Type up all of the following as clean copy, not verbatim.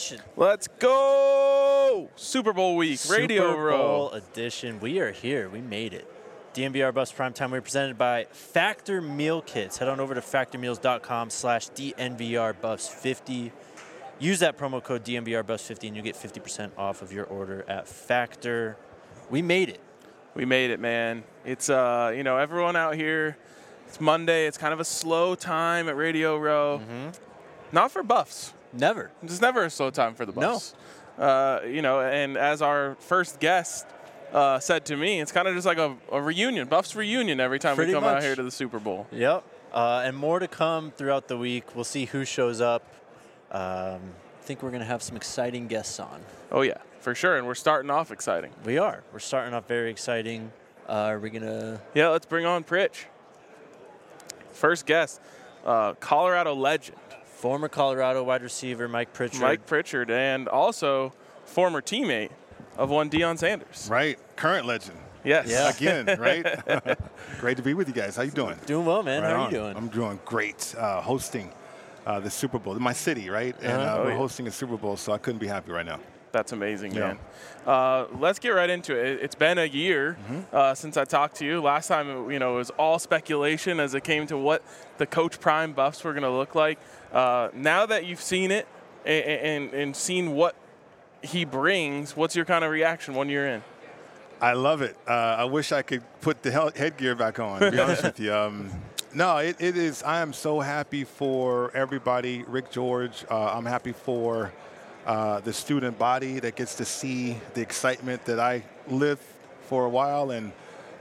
Nation. Let's go! Super Bowl week, Radio Super Row. Bowl edition. We are here. We made it. DNVR Buffs Primetime. We're presented by Factor Meal Kits. Head on over to factormeals.com/DNVRBuffs50. Use that promo code DNVRBuffs50 and you get 50% off of your order at Factor. We made it. We made it, man. It's, everyone out here, it's Monday. It's kind of a slow time at Radio Row. Mm-hmm. Not for Buffs. Never. It's never a slow time for the Buffs. No. And as our first guest said to me, it's kind of just like a reunion, Buffs reunion every time we come out here to the Super Bowl. Yep. And more to come throughout the week. We'll see who shows up. I think we're going to have some exciting guests on. Oh, yeah, for sure. And we're starting off exciting. We are. We're starting off very exciting. Are we going to? Yeah, let's bring on Pritch. First guest, Colorado legend. Former Colorado wide receiver Mike Pritchard. Mike Pritchard, and also former teammate of one Deion Sanders. Right. Current legend. Yes. Yeah. Again, right? Great to be with you guys. How you doing? Doing well, man. Right How are on. you doing? I'm doing great. Hosting the Super Bowl. My city, right? And we're hosting a Super Bowl, so I couldn't be happy right now. That's amazing, Yeah. man. Let's get right into it. It's been a year since I talked to you. Last time, it was all speculation as it came to what the Coach Prime Buffs were going to look like. Now that you've seen it and seen what he brings, what's your kind of reaction 1 year in? I love it. I wish I could put the headgear back on, to be honest with you. No, it is. I am so happy for everybody. Rick George, I'm happy for the student body that gets to see the excitement that I lived for a while. And,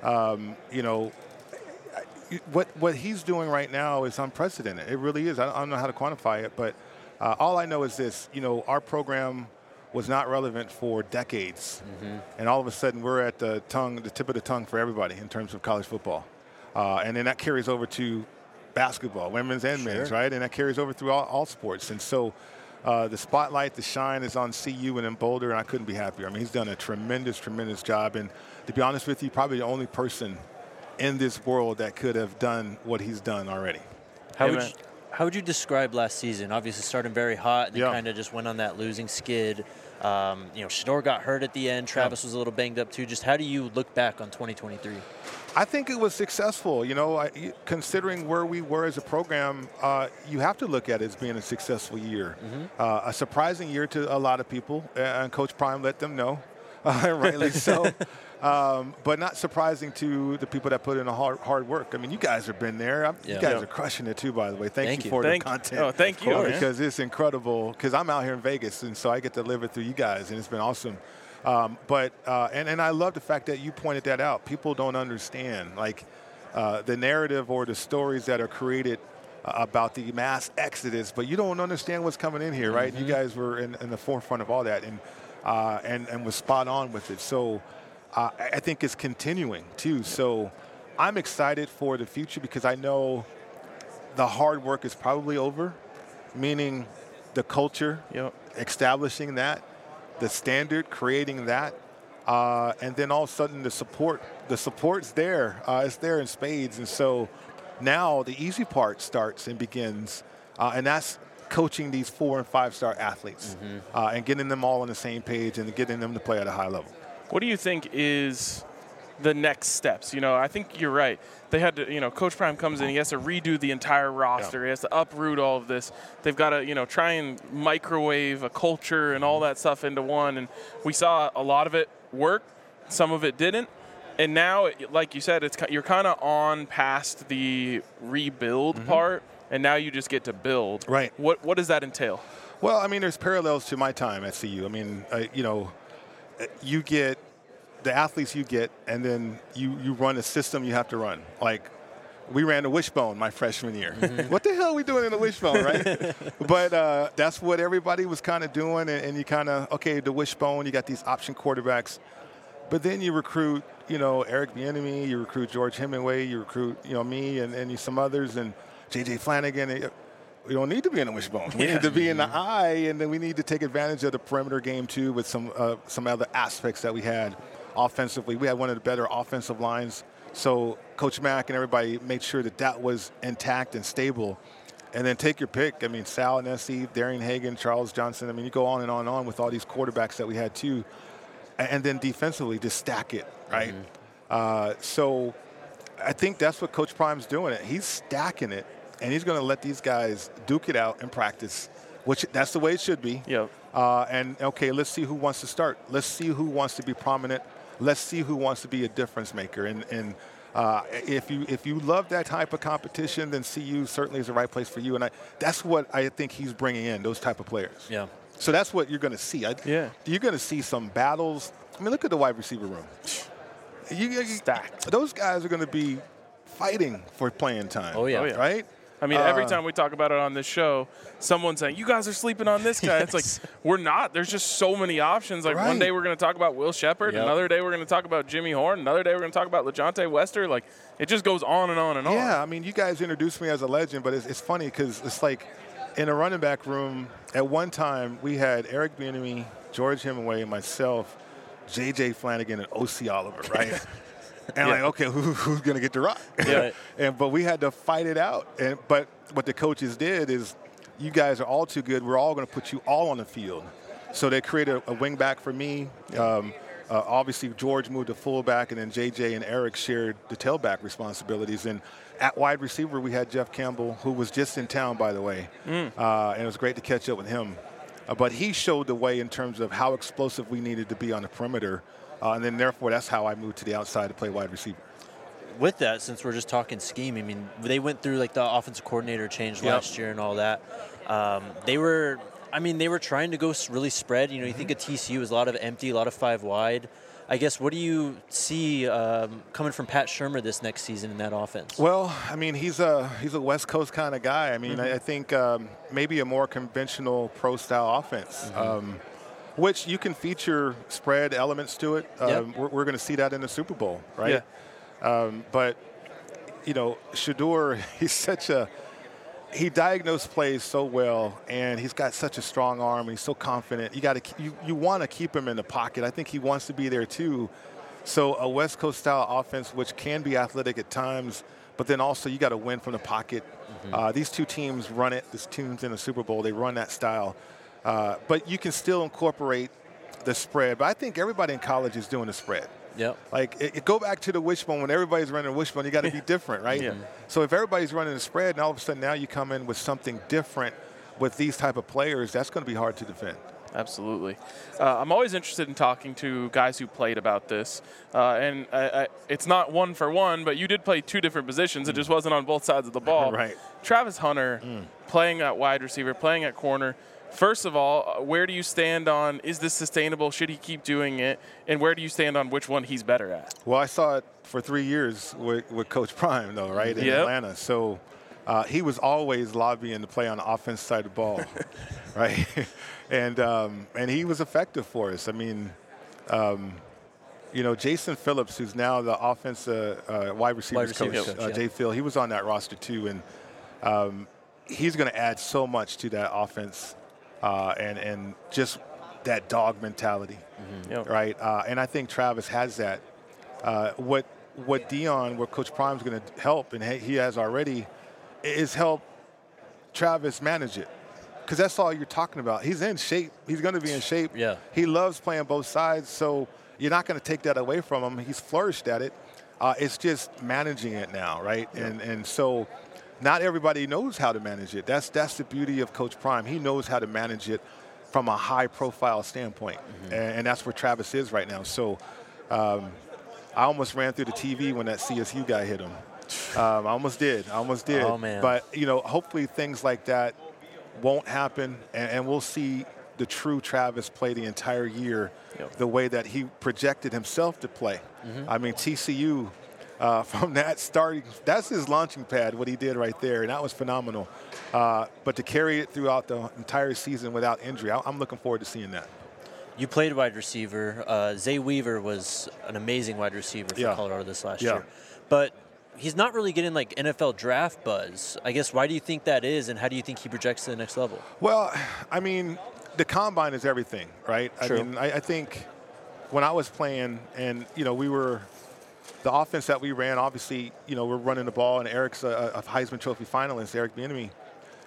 what he's doing right now is unprecedented. It really is. I don't know how to quantify it, but all I know is this. Our program was not relevant for decades. And all of a sudden we're at the tip of the tongue for everybody in terms of college football. And then that carries over to basketball, women's and men's, right? And that carries over through all sports. And so the spotlight, the shine is on CU and in Boulder, and I couldn't be happier. I mean, he's done a tremendous, tremendous job. And to be honest with you, probably the only person in this world that could have done what he's done already. How would you describe last season? Obviously starting very hot and then kind of just went on that losing skid. Shador got hurt at the end. Travis was a little banged up too. Just how do you look back on 2023? I think it was successful. Considering where we were as a program, you have to look at it as being a successful year. A surprising year to a lot of people, and Coach Prime let them know, rightly so. But not surprising to the people that put in a hard work. I mean, you guys have been there. You guys are crushing it too, by the way. Thank you for the content. Oh, thank you. Because it's incredible. Because I'm out here in Vegas, and so I get to live it through you guys, and it's been awesome. And I love the fact that you pointed that out. People don't understand, the narrative or the stories that are created about the mass exodus, but you don't understand what's coming in here, right? You guys were in the forefront of all that and was spot on with it. So I think it's continuing, too. So I'm excited for the future because I know the hard work is probably over, meaning the culture, establishing that, the standard, creating that, and then all of a sudden the support's there. It's there in spades. And so now the easy part starts and begins, and that's coaching these 4- and 5-star athletes and getting them all on the same page and getting them to play at a high level. What do you think is the next steps? I think you're right. They had to, Coach Prime comes in, he has to redo the entire roster. He has to uproot all of this. They've got to, try and microwave a culture and all that stuff into one. And we saw a lot of it work. Some of it didn't. And now, like you said, you're kind of on past the rebuild part, and now you just get to build. Right. What does that entail? Well, I mean, there's parallels to my time at CU. I mean, you get the athletes you get, and then you run a system you have to run. Like, we ran the wishbone my freshman year. What the hell are we doing in the wishbone, right? But that's what everybody was kind of doing, and you kind of, the wishbone, you got these option quarterbacks. But then you recruit, Eric Bieniemy, you recruit George Hemingway, you recruit, me and some others, and J.J. Flanagan. We don't need to be in the wishbone. We need to be in the eye, and then we need to take advantage of the perimeter game, too, with some other aspects that we had offensively. We had one of the better offensive lines. So Coach Mack and everybody made sure that was intact and stable. And then take your pick. I mean, Sal Nessie, Darian Hagan, Charles Johnson. I mean, you go on and on with all these quarterbacks that we had too. And then defensively, just stack it, right? So I think that's what Coach Prime's doing. He's stacking it, and he's going to let these guys duke it out in practice, which that's the way it should be. Yep. And, okay, let's see who wants to start. Let's see who wants to be prominent. Let's see who wants to be a difference maker. And if you love that type of competition, then CU certainly is the right place for you. And that's what I think he's bringing in, those type of players. Yeah. So that's what you're going to see. Yeah. You're going to see some battles. I mean, look at the wide receiver room. Stacked. Those guys are going to be fighting for playing time. Oh, yeah. Right? I mean, every time we talk about it on this show, someone's saying, you guys are sleeping on this guy. It's like, we're not. There's just so many options. Like, one day we're going to talk about Will Shepherd. Yep. Another day we're going to talk about Jimmy Horn. Another day we're going to talk about LeJontay Wester. Like, it just goes on and on and on. Yeah, I mean, you guys introduced me as a legend, but it's funny because it's like in a running back room, at one time we had Eric Bieniemy, George Hemingway, myself, J.J. Flanagan, and O.C. Oliver, right? And like, okay, who's going to get the rock? Yeah. But we had to fight it out. But what the coaches did is, you guys are all too good. We're all going to put you all on the field. So they created a wing back for me. Obviously, George moved to fullback, and then J.J. and Eric shared the tailback responsibilities. And at wide receiver, we had Jeff Campbell, who was just in town, by the way. And it was great to catch up with him. But he showed the way in terms of how explosive we needed to be on the perimeter. And then, therefore, that's how I moved to the outside to play wide receiver. With that, since we're just talking scheme, I mean, they went through like the offensive coordinator change last year and all that. They were trying to go really spread. You know, you think of TCU was a lot of empty, a lot of 5 wide. I guess, what do you see coming from Pat Shurmur this next season in that offense? Well, I mean, he's a West Coast kind of guy. I mean, I think maybe a more conventional pro-style offense. Which you can feature spread elements to it. We're going to see that in the Super Bowl, right? Yeah. But, you know, Shedeur, he diagnosed plays so well, and he's got such a strong arm. He's so confident. You want to keep him in the pocket. I think he wants to be there too. So a West Coast style offense, which can be athletic at times, but then also you got to win from the pocket. These two teams run it. This team's in the Super Bowl. They run that style. But you can still incorporate the spread. But I think everybody in college is doing the spread. Yep. Like, go back to the wishbone. When everybody's running a wishbone, you got to be different, right? Yeah. So if everybody's running the spread, and all of a sudden now you come in with something different with these type of players, that's going to be hard to defend. Absolutely. I'm always interested in talking to guys who played about this. And it's not one for one, but you did play 2 different positions. It just wasn't on both sides of the ball. Right. Travis Hunter, playing at wide receiver, playing at corner. First of all, where do you stand on, is this sustainable? Should he keep doing it? And where do you stand on which one he's better at? Well, I saw it for 3 years with Coach Prime, though, right, in Atlanta. So he was always lobbying to play on the offense side of the ball, right? And he was effective for us. I mean, you know, Jason Phillips, who's now the offensive wide receivers coach, Jay Phil, he was on that roster too. And he's going to add so much to that offense. And just that dog mentality, right? And I think Travis has that. What Coach Prime's going to help, and he has already, is help Travis manage it. Because that's all you're talking about. He's in shape. He's going to be in shape. Yeah. He loves playing both sides, so you're not going to take that away from him. He's flourished at it. It's just managing it now, right? Yeah. And so not everybody knows how to manage it. That's the beauty of Coach Prime. He knows how to manage it from a high-profile standpoint, and that's where Travis is right now. So I almost ran through the TV when that CSU guy hit him. I almost did. Oh, man. But, you know, hopefully things like that won't happen, and we'll see the true Travis play the entire year the way that he projected himself to play. I mean, TCU, from that starting, that's his launching pad, what he did right there, and that was phenomenal. But to carry it throughout the entire season without injury, I'm looking forward to seeing that. You played wide receiver. Zay Weaver was an amazing wide receiver for Colorado this last year. But he's not really getting like NFL draft buzz. I guess, why do you think that is, and how do you think he projects to the next level? Well, I mean, the combine is everything, right? True. I mean, I think when I was playing, and, you know, the offense that we ran, obviously, you know, we're running the ball, and Eric's a Heisman Trophy finalist, Eric Bieniemy.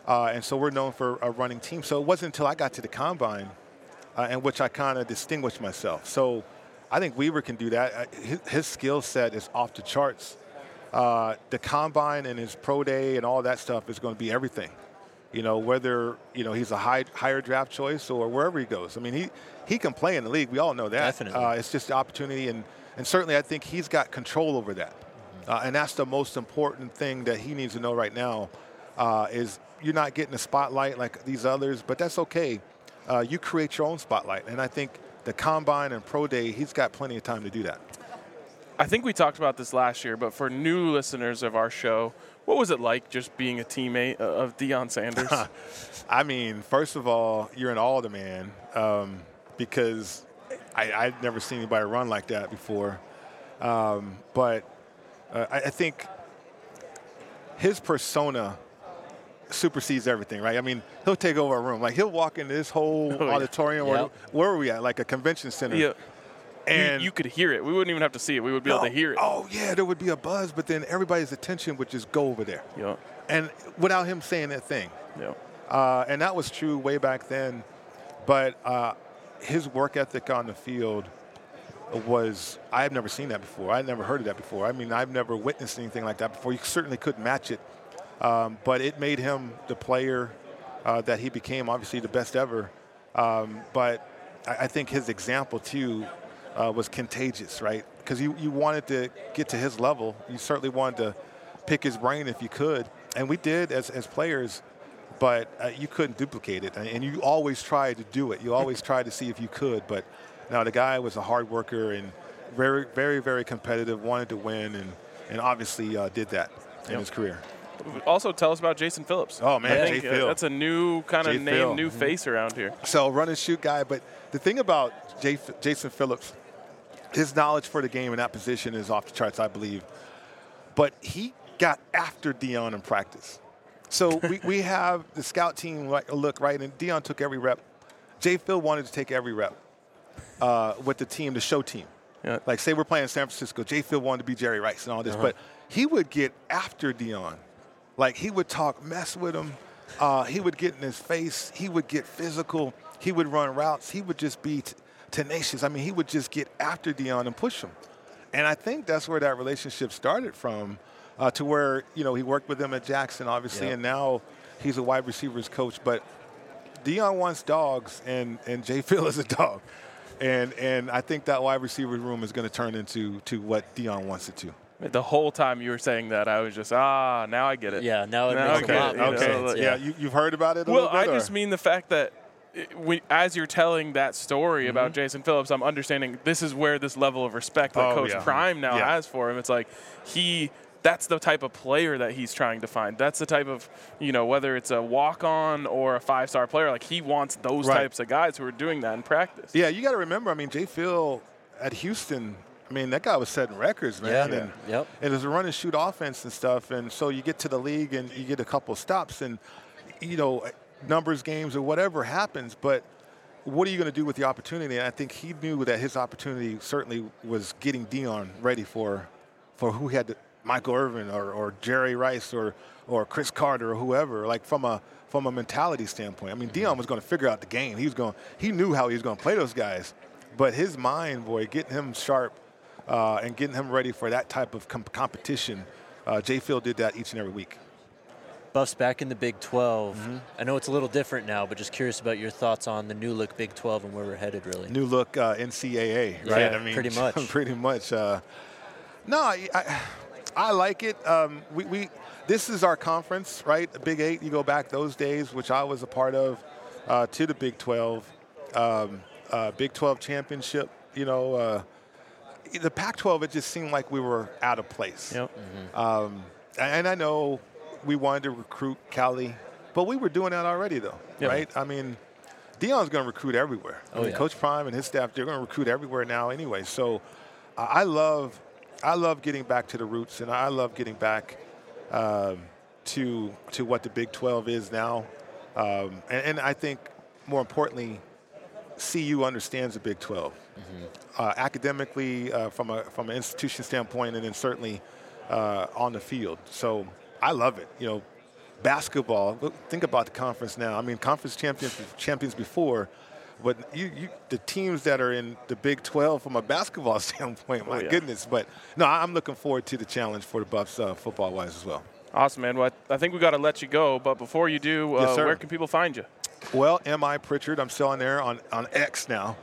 And so we're known for a running team. So it wasn't until I got to the combine in which I kind of distinguished myself. So I think Weaver can do that. His skill set is off the charts. The combine and his pro day and all that stuff is going to be everything. Whether, he's a higher draft choice or wherever he goes. I mean, he can play in the league. We all know that. Definitely. It's just the opportunity, and certainly I think he's got control over that. And that's the most important thing that he needs to know right now is you're not getting a spotlight like these others, but that's okay. You create your own spotlight. And I think the combine and pro day, he's got plenty of time to do that. I think we talked about this last year, but for new listeners of our show, what was it like just being a teammate of Deion Sanders? I mean, first of all, you're an all-the-man because I'd never seen anybody run like that before. But I think his persona supersedes everything, right? I mean, he'll take over a room. Like, he'll walk into this whole auditorium. Yep. Where are we at? Like a convention center. Yeah. And you could hear it. We wouldn't even have to see it. We would be able to hear it. Oh, yeah, there would be a buzz, but then everybody's attention would just go over there. Yeah. And without him saying that thing. Yeah. And that was true way back then. But his work ethic on the field was, I've never seen that before. I've never heard of that before. I mean, I've never witnessed anything like that before. You certainly couldn't match it. But it made him the player that he became, obviously the best ever. But I think his example, too, was contagious, right? Because you wanted to get to his level. You certainly wanted to pick his brain if you could. And we did as players, but you couldn't duplicate it. And you always tried to do it. You always tried to see if you could. But now the guy was a hard worker and very, very, very competitive, wanted to win, and obviously did that in his career. Also, tell us about Jason Phillips. Oh, man, Jay Phil. That's a new kind of name, new face around here. So run and shoot guy. But the thing about Jason Phillips, his knowledge for the game in that position is off the charts, I believe. But he got after Deion in practice. So we have the scout team look, right, and Deion took every rep. Jay Phil wanted to take every rep with the team, the show team. Yeah. Like, say we're playing San Francisco. Jay Phil wanted to be Jerry Rice and all this. But he would get after Deion. Like, he would talk mess with him. He would get in his face. He would get physical. He would run routes. He would just be tenacious. I mean, he would just get after Deion and push him. And I think that's where that relationship started from, to where, he worked with him at Jackson, obviously, and now he's a wide receivers coach. But Deion wants dogs, and Jay Phil is a dog. And I think that wide receiver room is going to turn into what Deion wants it to. The whole time you were saying that, I was just, now I get it. Yeah, now it makes a lot more sense. Yeah, you've heard about it a little bit? Well, I just mean the fact that as you're telling that story about Jason Phillips, I'm understanding this is where this level of respect that Coach Prime now has for him. It's like that's the type of player that he's trying to find. That's the type of, whether it's a walk-on or a five-star player, like he wants those types of guys who are doing that in practice. Yeah, you got to remember, I mean, Jay Phil at Houston, I mean, that guy was setting records, man. And it was a run-and-shoot offense and stuff. And so you get to the league and you get a couple stops and, numbers games or whatever happens. But what are you going to do with the opportunity? And I think he knew that his opportunity certainly was getting Deion ready for who he had Michael Irvin or Jerry Rice or Chris Carter or whoever, like from a mentality standpoint. I mean, Deion was going to figure out the game. He knew how he was going to play those guys. But his mind, boy, getting him sharp, and getting him ready for that type of competition, Jay Phil did that each and every week. Buffs back in the Big 12. I know it's a little different now, but just curious about your thoughts on the new look Big 12 and where we're headed, really. New look NCAA, right? Yeah, I mean, pretty much. Pretty much. No, I like it. This is our conference, right? The Big 8, you go back those days, which I was a part of, to the Big 12. Big 12 championship, the Pac-12, it just seemed like we were out of place. Yep. And I know we wanted to recruit Cali, but we were doing that already, though, right? I mean, Deion's going to recruit everywhere. Coach Prime and his staff, they're going to recruit everywhere now anyway. So I love getting back to the roots, and I love getting back to what the Big 12 is now. And I think, more importantly, CU understands the Big 12 academically, from an institution standpoint, and then certainly on the field. So I love it. basketball, think about the conference now. I mean, conference champions before, but the teams that are in the Big 12 from a basketball standpoint, my goodness. But, no, I'm looking forward to the challenge for the Buffs football-wise as well. Awesome, man. Well, I think we got to let you go, but before you do, where can people find you? Well, M.I. Pritchard, I'm still on there on X now.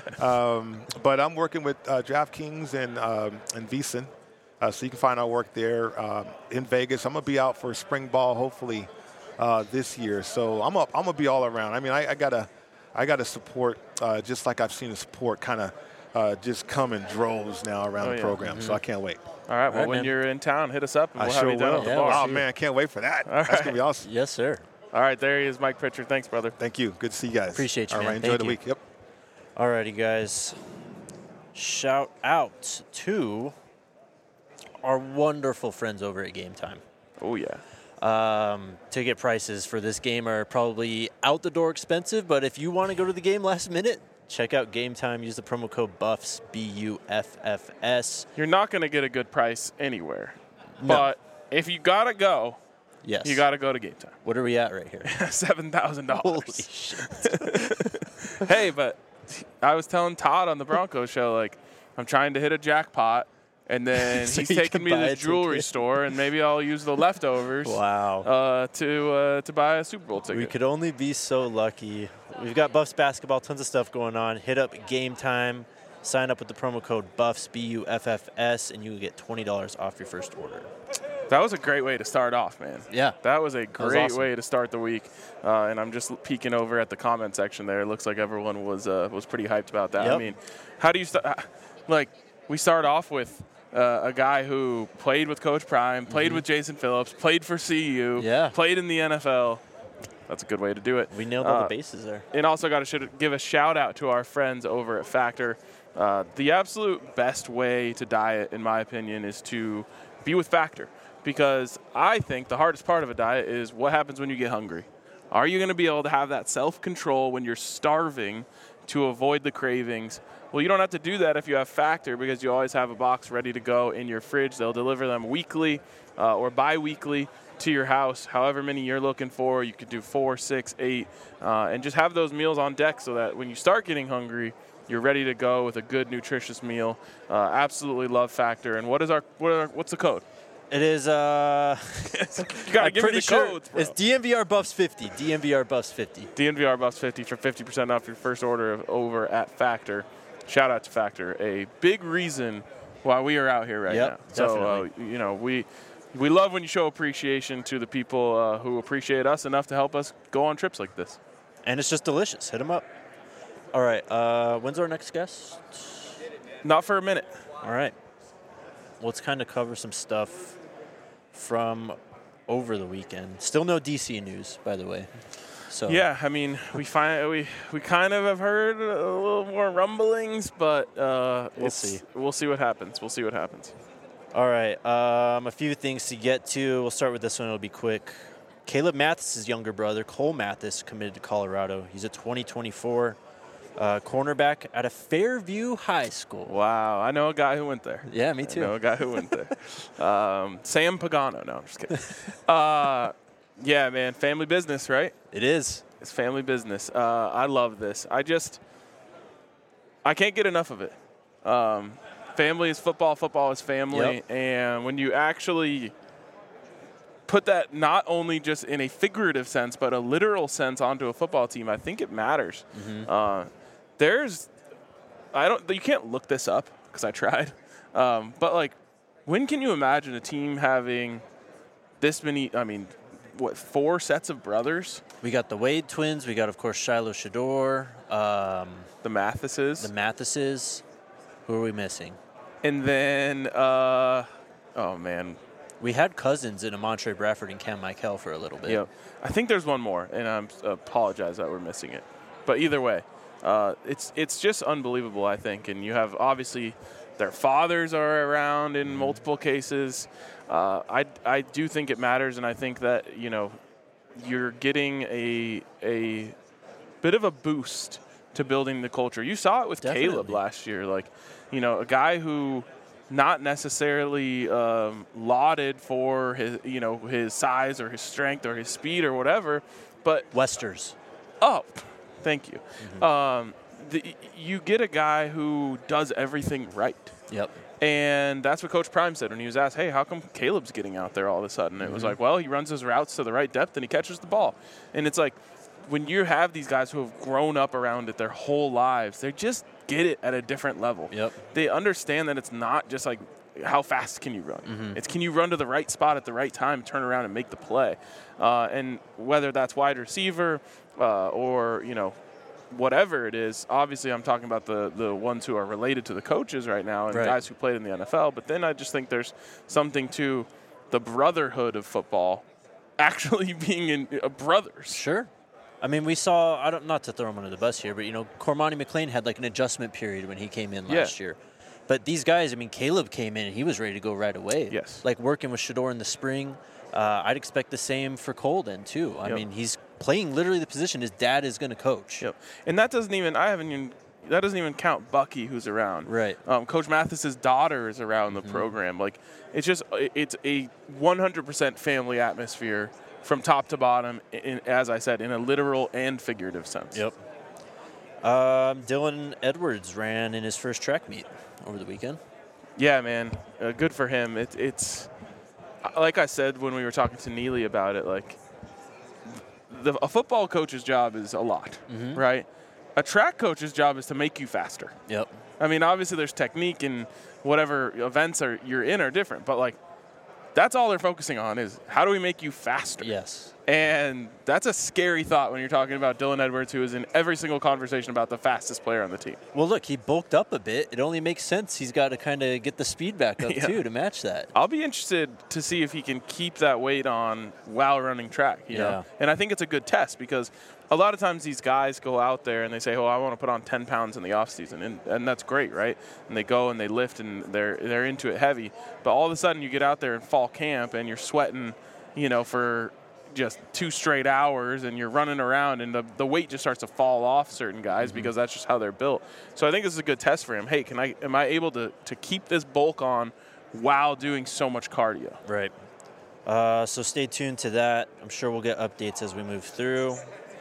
But I'm working with DraftKings and VSiN. So you can find our work there in Vegas. I'm going to be out for spring ball, hopefully, this year. So I'm gonna be all around. I mean, I gotta support just like I've seen the support kind of just come in droves now around the program. So I can't wait. All right. Well, when you're in town, hit us up, and we'll have you down at the bar. Oh, man, I can't wait for that. That's going to be awesome. Yes, sir. All right, there he is, Mike Pritchard. Thanks, brother. Thank you. Good to see you guys. Appreciate you, man. All right, enjoy the week. Yep. All righty, guys. Shout out to our wonderful friends over at Game Time. Oh, yeah. Ticket prices for this game are probably out the door expensive, but if you want to go to the game last minute, check out Game Time. Use the promo code BUFFS, BUFFS. You're not going to get a good price anywhere. No. But if you got to go, yes, you got to go to Game Time. What are we at right here? $7,000. Holy shit. Hey, but I was telling Todd on the Broncos show, like, I'm trying to hit a jackpot, and then So he's you taking can me to buy the a jewelry ticket. store, and maybe I'll use the leftovers to buy a Super Bowl ticket. We could only be so lucky. We've got Buffs basketball, tons of stuff going on. Hit up Game Time. Sign up with the promo code BUFFS, BUFFS, and you will get $20 off your first order. That was a great way to start off, man. Yeah. That was a great awesome. way to start the week. And I'm just peeking over at the comment section there. It looks like everyone was pretty hyped about that. Yep. I mean, how do you start? Like, we start off with a guy who played with Coach Prime, played with Jason Phillips, played for CU, played in the NFL. That's a good way to do it. We nailed all the bases there. And also got to give a shout out to our friends over at Factor. The absolute best way to diet, in my opinion, is to be with Factor. Because I think the hardest part of a diet is what happens when you get hungry. Are you going to be able to have that self-control when you're starving to avoid the cravings? Well, you don't have to do that if you have Factor, because you always have a box ready to go in your fridge. They'll deliver them weekly or bi-weekly to your house, however many you're looking for. You could do 4, 6, 8, and just have those meals on deck so that when you start getting hungry, you're ready to go with a good, nutritious meal. Absolutely love Factor. And what's the code? It is, You gotta give me the codes, bro. It's DNVR Buffs 50. DNVR Buffs 50. DNVR Buffs 50 for 50% off your first order over at Factor. Shout out to Factor, a big reason why we are out here right now. So, we love when you show appreciation to the people who appreciate us enough to help us go on trips like this. And it's just delicious. Hit them up. All right. When's our next guest? Not for a minute. All right. Let's kind of cover some stuff from over the weekend. Still no DC news, by the way. So yeah, I mean, we kind of have heard a little more rumblings, but we'll see. We'll see what happens. We'll see what happens. All right. A few things to get to. We'll start with this one. It'll be quick. Caleb Mathis' younger brother, Cole Mathis, committed to Colorado. He's a 2024 cornerback at a Fairview High School. Wow, I know a guy who went there. Yeah, me too. I know a guy who went there. Sam Pagano. No, I'm just kidding. Yeah, man, family business, right? It is. It's family business. I love this. I can't get enough of it. Family is football. Football is family. Yep. And when you actually put that not only just in a figurative sense, but a literal sense onto a football team, I think it matters. Mm-hmm. You can't look this up because I tried. But, like, when can you imagine a team having this many, 4 sets of brothers? We got the Wade twins. We got, of course, Shiloh Shador. The Mathises. The Mathises. Who are we missing? And then, we had cousins in Amontre Bradford and Cam Michael for a little bit. Yeah, I think there's one more, and I apologize that we're missing it. But either way, it's just unbelievable, I think. And you have, obviously, their fathers are around in multiple cases. I do think it matters, and I think that, you're getting a bit of a boost to building the culture. You saw it with Definitely. Caleb last year. Like, a guy who not necessarily lauded for his size or his strength or his speed or whatever, but Westers. Oh, thank you. You get a guy who does everything right. Yep. And that's what Coach Prime said when he was asked, hey, how come Caleb's getting out there all of a sudden? It was like, well, he runs his routes to the right depth and he catches the ball. And it's like, when you have these guys who have grown up around it their whole lives, they just get it at a different level. Yep. They understand that it's not just like, how fast can you run? It's can you run to the right spot at the right time, turn around and make the play. And whether that's wide receiver or, whatever it is, obviously I'm talking about the ones who are related to the coaches right now and guys who played in the NFL. But then I just think there's something to the brotherhood of football actually being in brothers. Sure. I mean, we saw, not to throw him under the bus here, but, Cormani McLean had like an adjustment period when he came in last year. But these guys, Caleb came in and he was ready to go right away. Yes. Like working with Shedeur in the spring. I'd expect the same for Colden, too. I mean, he's playing literally the position his dad is going to coach. Yep. And that doesn't even count Bucky, who's around. Right. Coach Mathis's daughter is around the program. Like, it's a 100% family atmosphere from top to bottom, as I said, in a literal and figurative sense. Yep. Dylan Edwards ran in his first track meet over the weekend. Yeah, man. Good for him. It's like I said when we were talking to Neely about it, like, a football coach's job is a lot, right? A track coach's job is to make you faster. Yep. I mean, obviously there's technique and whatever events you're in are different, but like that's all they're focusing on is how do we make you faster? Yes. And that's a scary thought when you're talking about Dylan Edwards, who is in every single conversation about the fastest player on the team. Well, look, he bulked up a bit. It only makes sense. He's got to kind of get the speed back up, too, to match that. I'll be interested to see if he can keep that weight on while running track, you know? And I think it's a good test because a lot of times these guys go out there and they say, oh, I want to put on 10 pounds in the offseason, and that's great, right? And they go and they lift and they're into it heavy. But all of a sudden you get out there in fall camp and you're sweating, for just 2 straight hours and you're running around and the weight just starts to fall off certain guys because that's just how they're built. So I think this is a good test for him. Hey, am I able to keep this bulk on while doing so much cardio? Right. So stay tuned to that. I'm sure we'll get updates as we move through.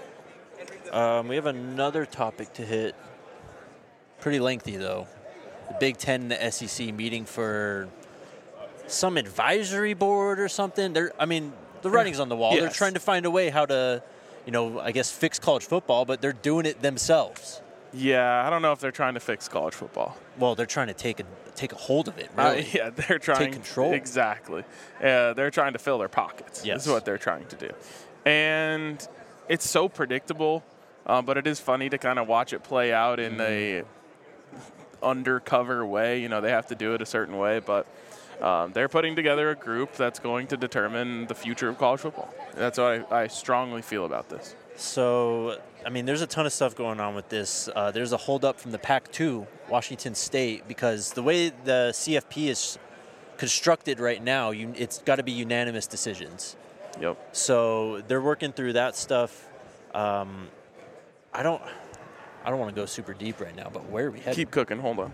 We have another topic to hit. Pretty lengthy, though. The Big Ten and the SEC meeting for some advisory board or something. The writing's on the wall. Yes. They're trying to find a way how to, I guess fix college football, but they're doing it themselves. Yeah, I don't know if they're trying to fix college football. Well, they're trying to take a hold of it, really. They're trying take control. Exactly. They're trying to fill their pockets. Yes. This is what they're trying to do. And it's so predictable, but it is funny to kind of watch it play out in a undercover way. They have to do it a certain way, but they're putting together a group that's going to determine the future of college football. That's what I strongly feel about this. So, there's a ton of stuff going on with this. There's a holdup from the Pac-2, Washington State, because the way the CFP is constructed right now, it's got to be unanimous decisions. Yep. So they're working through that stuff. I don't want to go super deep right now, but where are we headed? Keep cooking. Hold on.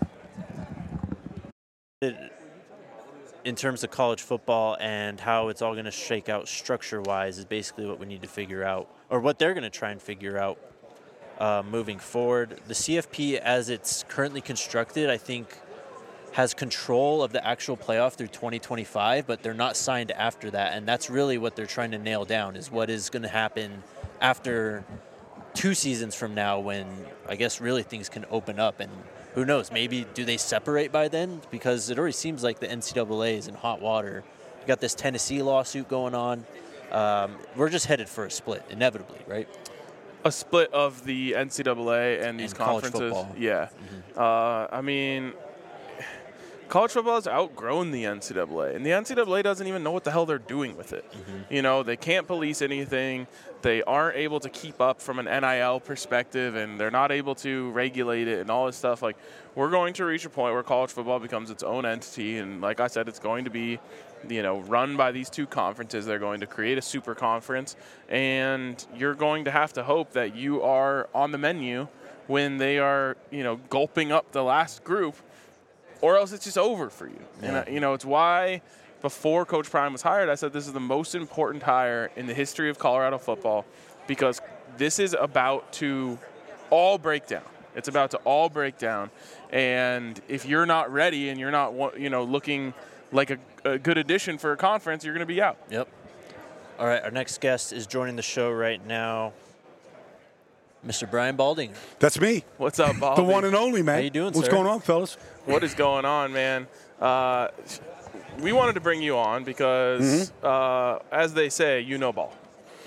In terms of college football and how it's all going to shake out structure-wise is basically what we need to figure out, or what they're going to try and figure out moving forward. The CFP, as it's currently constructed, I think has control of the actual playoff through 2025, but they're not signed after that, and that's really what they're trying to nail down is what is going to happen after 2 seasons from now when I guess really things can open up. And who knows, maybe do they separate by then? Because it already seems like the NCAA is in hot water. You got this Tennessee lawsuit going on. We're just headed for a split, inevitably, right? A split of the NCAA and these conferences. College football. Yeah. College football has outgrown the NCAA, and the NCAA doesn't even know what the hell they're doing with it. They can't police anything. They aren't able to keep up from an NIL perspective, and they're not able to regulate it and all this stuff. Like, we're going to reach a point where college football becomes its own entity, and like I said, it's going to be, run by these 2 conferences. They're going to create a super conference, and you're going to have to hope that you are on the menu when they are, gulping up the last group. or else it's just over for you. Yeah. And, it's why before Coach Prime was hired, I said this is the most important hire in the history of Colorado football, because this is about to all break down. It's about to all break down. And if you're not ready and you're not, looking like a good addition for a conference, you're going to be out. Yep. All right, our next guest is joining the show right now, Mr. Brian Baldinger. That's me. What's up, Baldy? The one and only, man. How you doing, What's sir? going on, fellas? What is going on, man? We wanted to bring you on because, as they say, you know ball.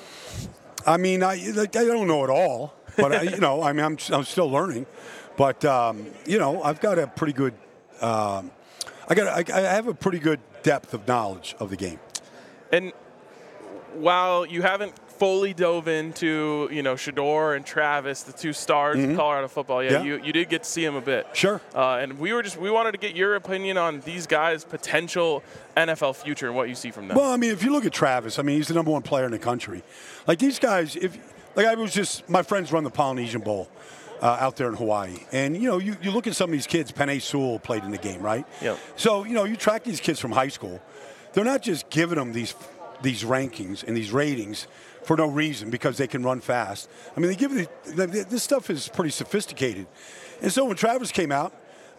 I mean, I don't know it all, but I'm still learning. But I've got a pretty good. I have a pretty good depth of knowledge of the game. And while you haven't fully dove into, Shedeur and Travis, the two stars of Colorado football, you did get to see them a bit. Sure. And we wanted to get your opinion on these guys' potential NFL future and what you see from them. Well, I mean, if you look at Travis, I mean, he's the number one player in the country. Like these guys, my friends run the Polynesian Bowl out there in Hawaii. And, you look at some of these kids, Penei Sewell played in the game, right? Yep. So, you track these kids from high school. They're not just giving them these rankings and these ratings for no reason because they can run fast. I mean, this stuff is pretty sophisticated. And so when Travis came out,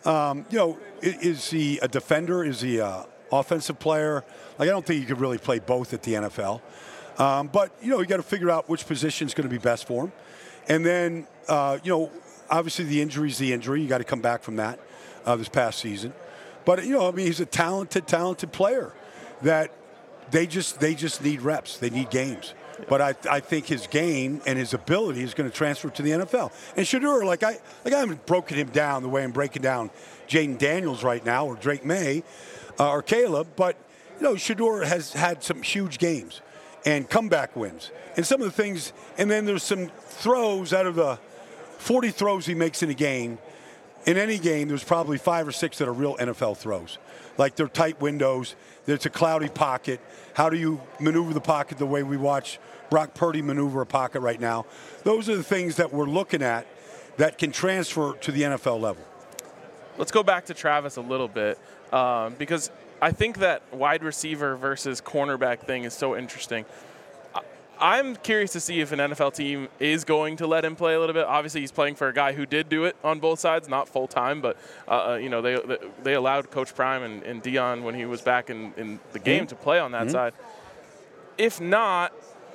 is he a defender? Is he an offensive player? Like, I don't think you could really play both at the NFL. But, you got to figure out which position is going to be best for him. And then, obviously the injury is the injury. You got to come back from that this past season. But, he's a talented player that they just need reps. They need games. But I think his game and his ability is going to transfer to the NFL. And Shedeur, I haven't broken him down the way I'm breaking down Jaden Daniels right now, or Drake May, or Caleb. But Shedeur has had some huge games and comeback wins, and some of the things. And then there's some throws out of the 40 throws he makes in a game. In any game, there's probably 5 or 6 that are real NFL throws. Like they're tight windows. There's a cloudy pocket. How do you maneuver the pocket the way we watch Brock Purdy maneuver a pocket right now? Those are the things that we're looking at that can transfer to the NFL level. Let's go back to Travis a little bit because I think that wide receiver versus cornerback thing is so interesting. I'm curious to see if an NFL team is going to let him play a little bit. Obviously, he's playing for a guy who did do it on both sides, not full time, but they allowed Coach Prime and Dion when he was back in the game to play on that side. If not,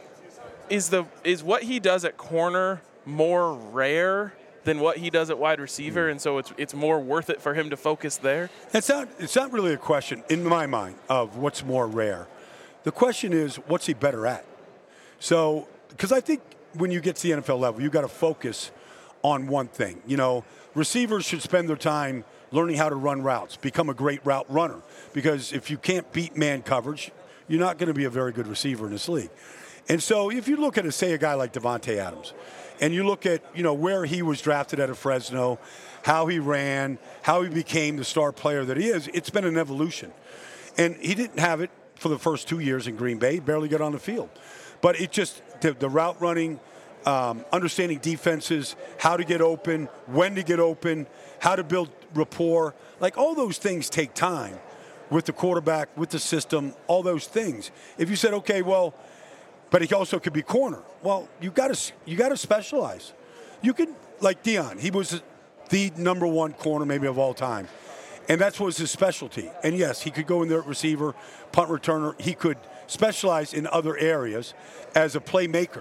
is what he does at corner more rare than what he does at wide receiver, and so it's more worth it for him to focus there? It's not really a question in my mind of what's more rare. The question is, what's he better at? So, because I think when you get to the NFL level, you got to focus on one thing. Receivers should spend their time learning how to run routes, become a great route runner. Because if you can't beat man coverage, you're not going to be a very good receiver in this league. And so, if you look at, say, a guy like Davante Adams, and you look at, where he was drafted out of Fresno, how he ran, how he became the star player that he is, it's been an evolution. And he didn't have it for the first 2 years in Green Bay. He barely got on the field. But it just, the route running, understanding defenses, how to get open, when to get open, how to build rapport, like all those things take time with the quarterback, with the system, all those things. If you said, okay, well, but he also could be corner. Well, you got to specialize. You could, like Dion, he was the number one corner maybe of all time. And that was his specialty. And yes, he could go in there at receiver, punt returner. He could specialize in other areas as a playmaker.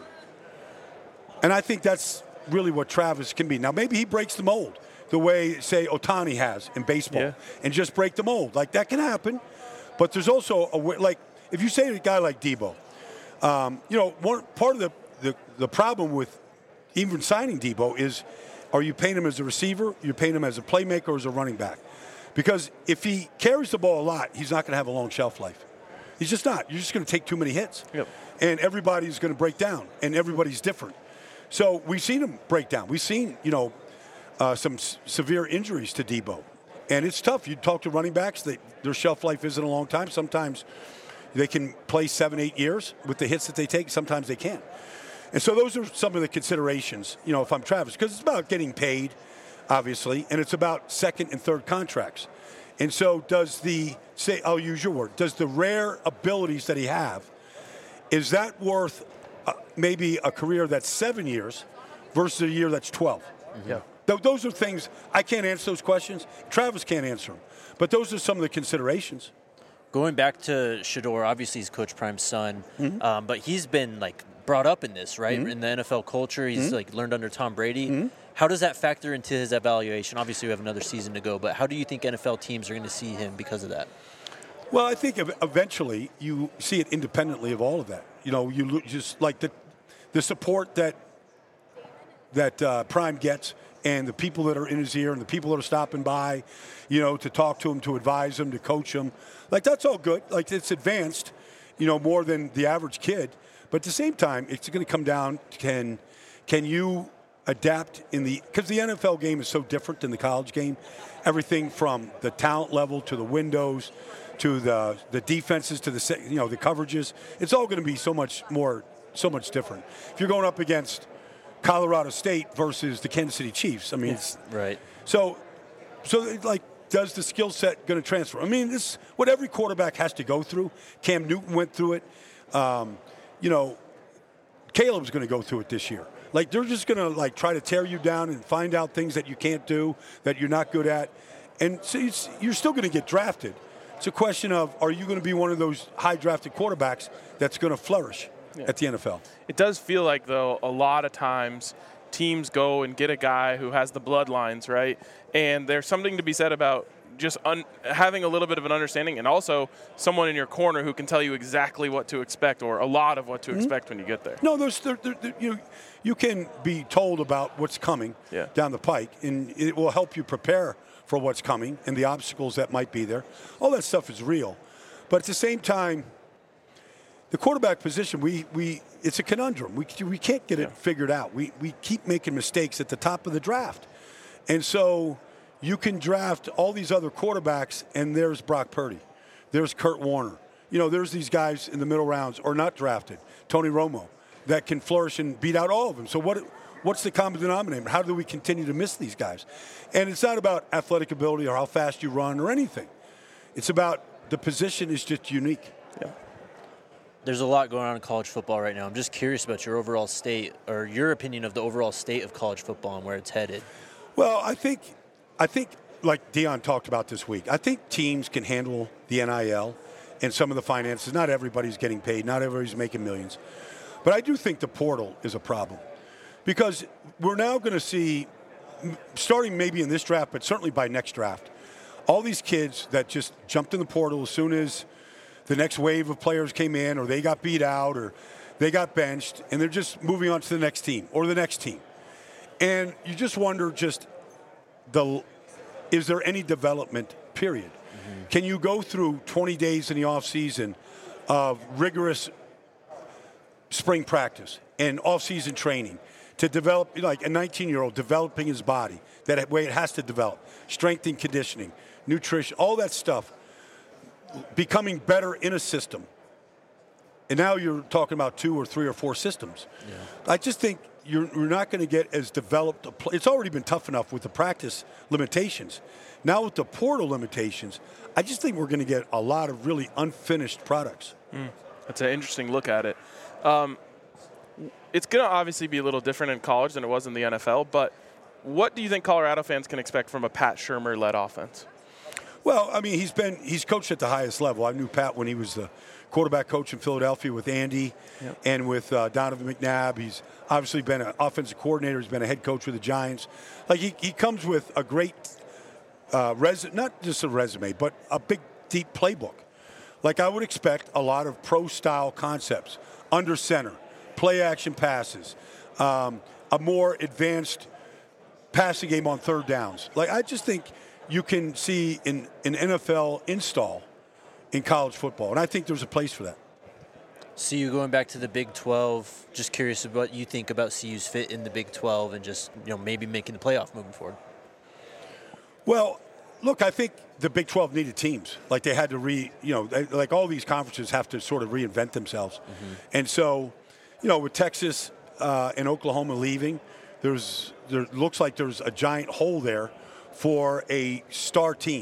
And I think that's really what Travis can be. Now, maybe he breaks the mold the way, say, Ohtani has in baseball, and just break the mold. Like, that can happen. But there's also, like, if you say to a guy like Debo, one part of the problem with even signing Debo is, are you paying him as a receiver, you're paying him as a playmaker, or as a running back? Because if he carries the ball a lot, he's not going to have a long shelf life. He's just not. You're just going to take too many hits. Yep. And everybody's going to break down, and everybody's different. So we've seen him break down. We've seen, some severe injuries to Debo. And it's tough. You talk to running backs, their shelf life isn't a long time. Sometimes they can play 7-8 years with the hits that they take. Sometimes they can't. And so those are some of the considerations, if I'm Travis, because it's about getting paid, obviously, and it's about second and third contracts. And so I'll use your word, does the rare abilities that he have, is that worth maybe a career that's 7 years versus a year that's 12? Mm-hmm. Yeah. Those are things, I can't answer those questions. Travis can't answer them. But those are some of the considerations. Going back to Shedeur, obviously he's Coach Prime's son, but he's been brought up in this, right? In the NFL culture, he's learned under Tom Brady. How does that factor into his evaluation? Obviously, we have another season to go, but how do you think NFL teams are going to see him because of that? Well, I think eventually you see it independently of all of that. You just like the support that Prime gets, and the people that are in his ear, and the people that are stopping by, to talk to him, to advise him, to coach him. That's all good. It's advanced, more than the average kid. But at the same time, it's going to come down, can you adapt because the NFL game is so different than the college game. Everything from the talent level to the windows to the defenses to the coverages. It's all going to be so much different. If you're going up against Colorado State versus the Kansas City Chiefs, it's right. So does the skill set going to transfer? This is what every quarterback has to go through. Cam Newton went through it. Caleb's going to go through it this year. They're just going to try to tear you down and find out things that you can't do, that you're not good at. And so you're still going to get drafted. It's a question of, are you going to be one of those high drafted quarterbacks that's going to flourish at the NFL? It does feel like, though, a lot of times teams go and get a guy who has the bloodlines, right? And there's something to be said about just having a little bit of an understanding, and also someone in your corner who can tell you exactly what to expect, or a lot of what to expect when you get there. No, you can be told about what's coming down the pike, and it will help you prepare for what's coming and the obstacles that might be there. All that stuff is real. But at the same time, the quarterback position, it's a conundrum. We can't get it figured out. We keep making mistakes at the top of the draft. And so you can draft all these other quarterbacks, and there's Brock Purdy. There's Kurt Warner. There's these guys in the middle rounds, or not drafted, Tony Romo, that can flourish and beat out all of them. So what's the common denominator? How do we continue to miss these guys? And it's not about athletic ability or how fast you run or anything. It's about the position is just unique. Yeah. There's a lot going on in college football right now. I'm just curious about your overall state, or your opinion of the overall state of college football and where it's headed. Well, I think like Deion talked about this week, I think teams can handle the NIL and some of the finances. Not everybody's getting paid. Not everybody's making millions. But I do think the portal is a problem, because we're now going to see, starting maybe in this draft, but certainly by next draft, all these kids that just jumped in the portal as soon as the next wave of players came in, or they got beat out, or they got benched, and they're just moving on to the next team or the next team. And you just wonder, is there any development, period? Mm-hmm. Can you go through 20 days in the offseason of rigorous spring practice and off-season training to develop, like a 19-year-old developing his body, that way it has to develop, strength and conditioning, nutrition, all that stuff, becoming better in a system. And now you're talking about 2 or 3 or 4 systems. Yeah. I just think you're not going to get as developed. It's already been tough enough with the practice limitations. Now with the portal limitations, I just think we're going to get a lot of really unfinished products. That's an interesting look at it. It's going to obviously be a little different in college than it was in the NFL, but what do you think Colorado fans can expect from a Pat Shurmur-led offense? Well, I mean, he's coached at the highest level. I knew Pat when he was the quarterback coach in Philadelphia with Andy and with Donovan McNabb. He's obviously been an offensive coordinator. He's been a head coach with the Giants. Like, he comes with a great not just a resume, but a big, deep playbook. Like, I would expect a lot of pro-style concepts, under center, play-action passes, a more advanced passing game on third downs. Like, I just think you can see an NFL install in college football, and I think there's a place for that. CU going back to the Big 12, just curious about what you think about CU's fit in the Big 12 and just, maybe making the playoff moving forward. Well, look, I think the Big 12 needed teams. Like, they had to like all these conferences have to sort of reinvent themselves. Mm-hmm. And so, with Texas and Oklahoma leaving, there looks like there's a giant hole there for a star team.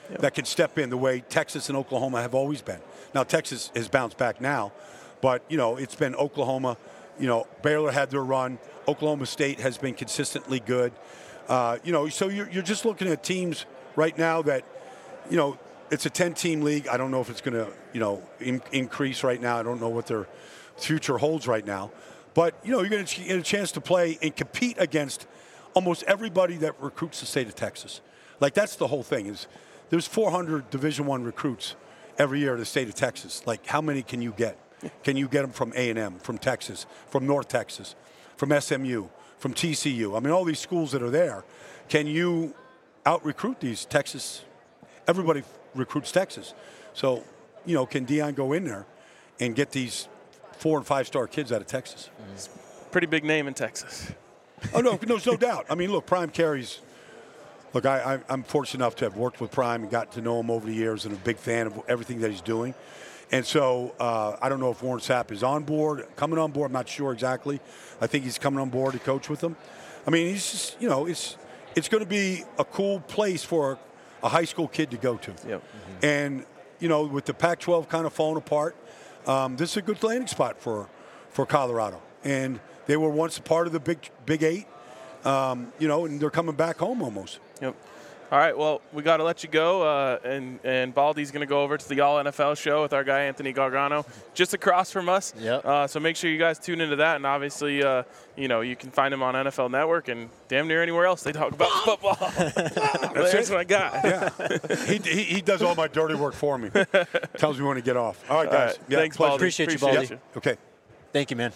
that can step in the way Texas and Oklahoma have always been. Now, Texas has bounced back now, but, it's been Oklahoma. Baylor had their run. Oklahoma State has been consistently good. So you're just looking at teams right now that, it's a 10-team league. I don't know if it's going to, increase right now. I don't know what their future holds right now. But, you're going to get a chance to play and compete against almost everybody that recruits the state of Texas. Like, that's the whole thing is there's 400 Division I recruits every year in the state of Texas. Like, how many can you get? Can you get them from A&M, from Texas, from North Texas, from SMU, from TCU? I mean, all these schools that are there. Can you out-recruit these Texas? Everybody recruits Texas. So, can Deion go in there and get these 4- and 5-star kids out of Texas? Pretty big name in Texas. Oh, no, there's no doubt. I mean, look, Prime Carey's – look, I'm fortunate enough to have worked with Prime and got to know him over the years and a big fan of everything that he's doing. And so I don't know if Warren Sapp is on board, coming on board. I'm not sure exactly. I think he's coming on board to coach with them. I mean, he's just, it's going to be a cool place for a high school kid to go to. Yep. Mm-hmm. And, with the Pac-12 kind of falling apart, this is a good landing spot for Colorado. And they were once a part of the Big Eight, and they're coming back home almost. Yep. All right, well, we got to let you go, and Baldy's going to go over to the All NFL show with our guy Anthony Gargano, just across from us. Yep. So make sure you guys tune into that, and obviously, you can find him on NFL Network and damn near anywhere else they talk about football. There's my guy. Yeah, he does all my dirty work for me. Tells me when to get off. All right, guys. All right. Yeah, thanks, Baldy. Appreciate you, Baldy. you. Okay. Thank you, man.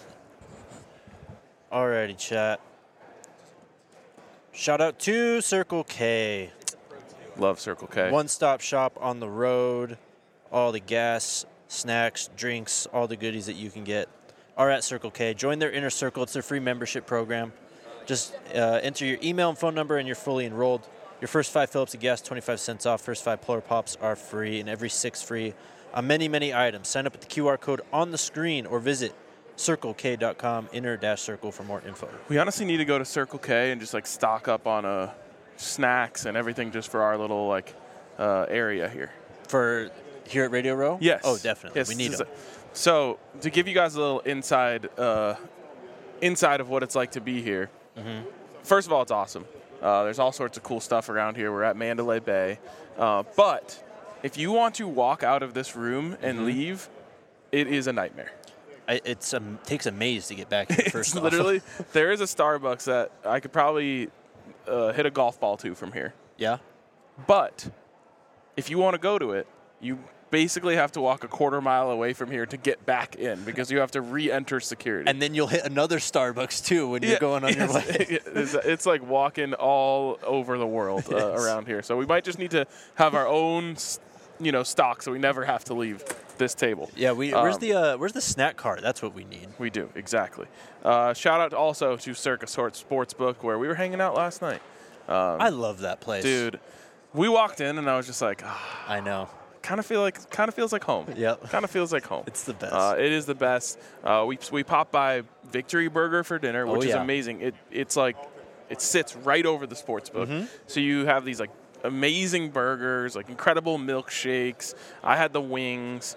All righty, chat. Shout out to Circle K. Love Circle K. One-stop shop on the road. All the gas, snacks, drinks, all the goodies that you can get are at Circle K. Join their inner circle. It's their free membership program. Just enter your email and phone number, and you're fully enrolled. Your first 5 fill-ups of gas, 25 cents off. First 5 Polar Pops are free, and every 6 free on many, many items. Sign up with the QR code on the screen or visit CircleK.com, inner-circle for more info. We honestly need to go to Circle K and just stock up on snacks and everything just for our little area here. For here at Radio Row? Yes. Oh, definitely. Yes. We need them. So to give you guys a little inside of what it's like to be here. Mm-hmm. First of all, it's awesome. There's all sorts of cool stuff around here. We're at Mandalay Bay. But if you want to walk out of this room and leave, it is a nightmare. It takes a maze to get back here first off. Literally, there is a Starbucks that I could probably hit a golf ball to from here. Yeah? But if you want to go to it, you basically have to walk a quarter mile away from here to get back in because you have to re-enter security. And then you'll hit another Starbucks, too, when you're going on your way. It's like walking all over the world around here. So we might just need to have our own stock so we never have to leave this table. Yeah, where's the snack cart? That's what we need. We do, exactly. Shout out also to Circa Sportsbook where we were hanging out last night. I love that place. Dude, we walked in and I was just like, I know. Kind of feels like home. Yep. Kind of feels like home. It's the best. It is the best. We popped by Victory Burger for dinner, which is amazing. It's like it sits right over the sportsbook. Mm-hmm. So you have these amazing burgers, incredible milkshakes. I had the wings,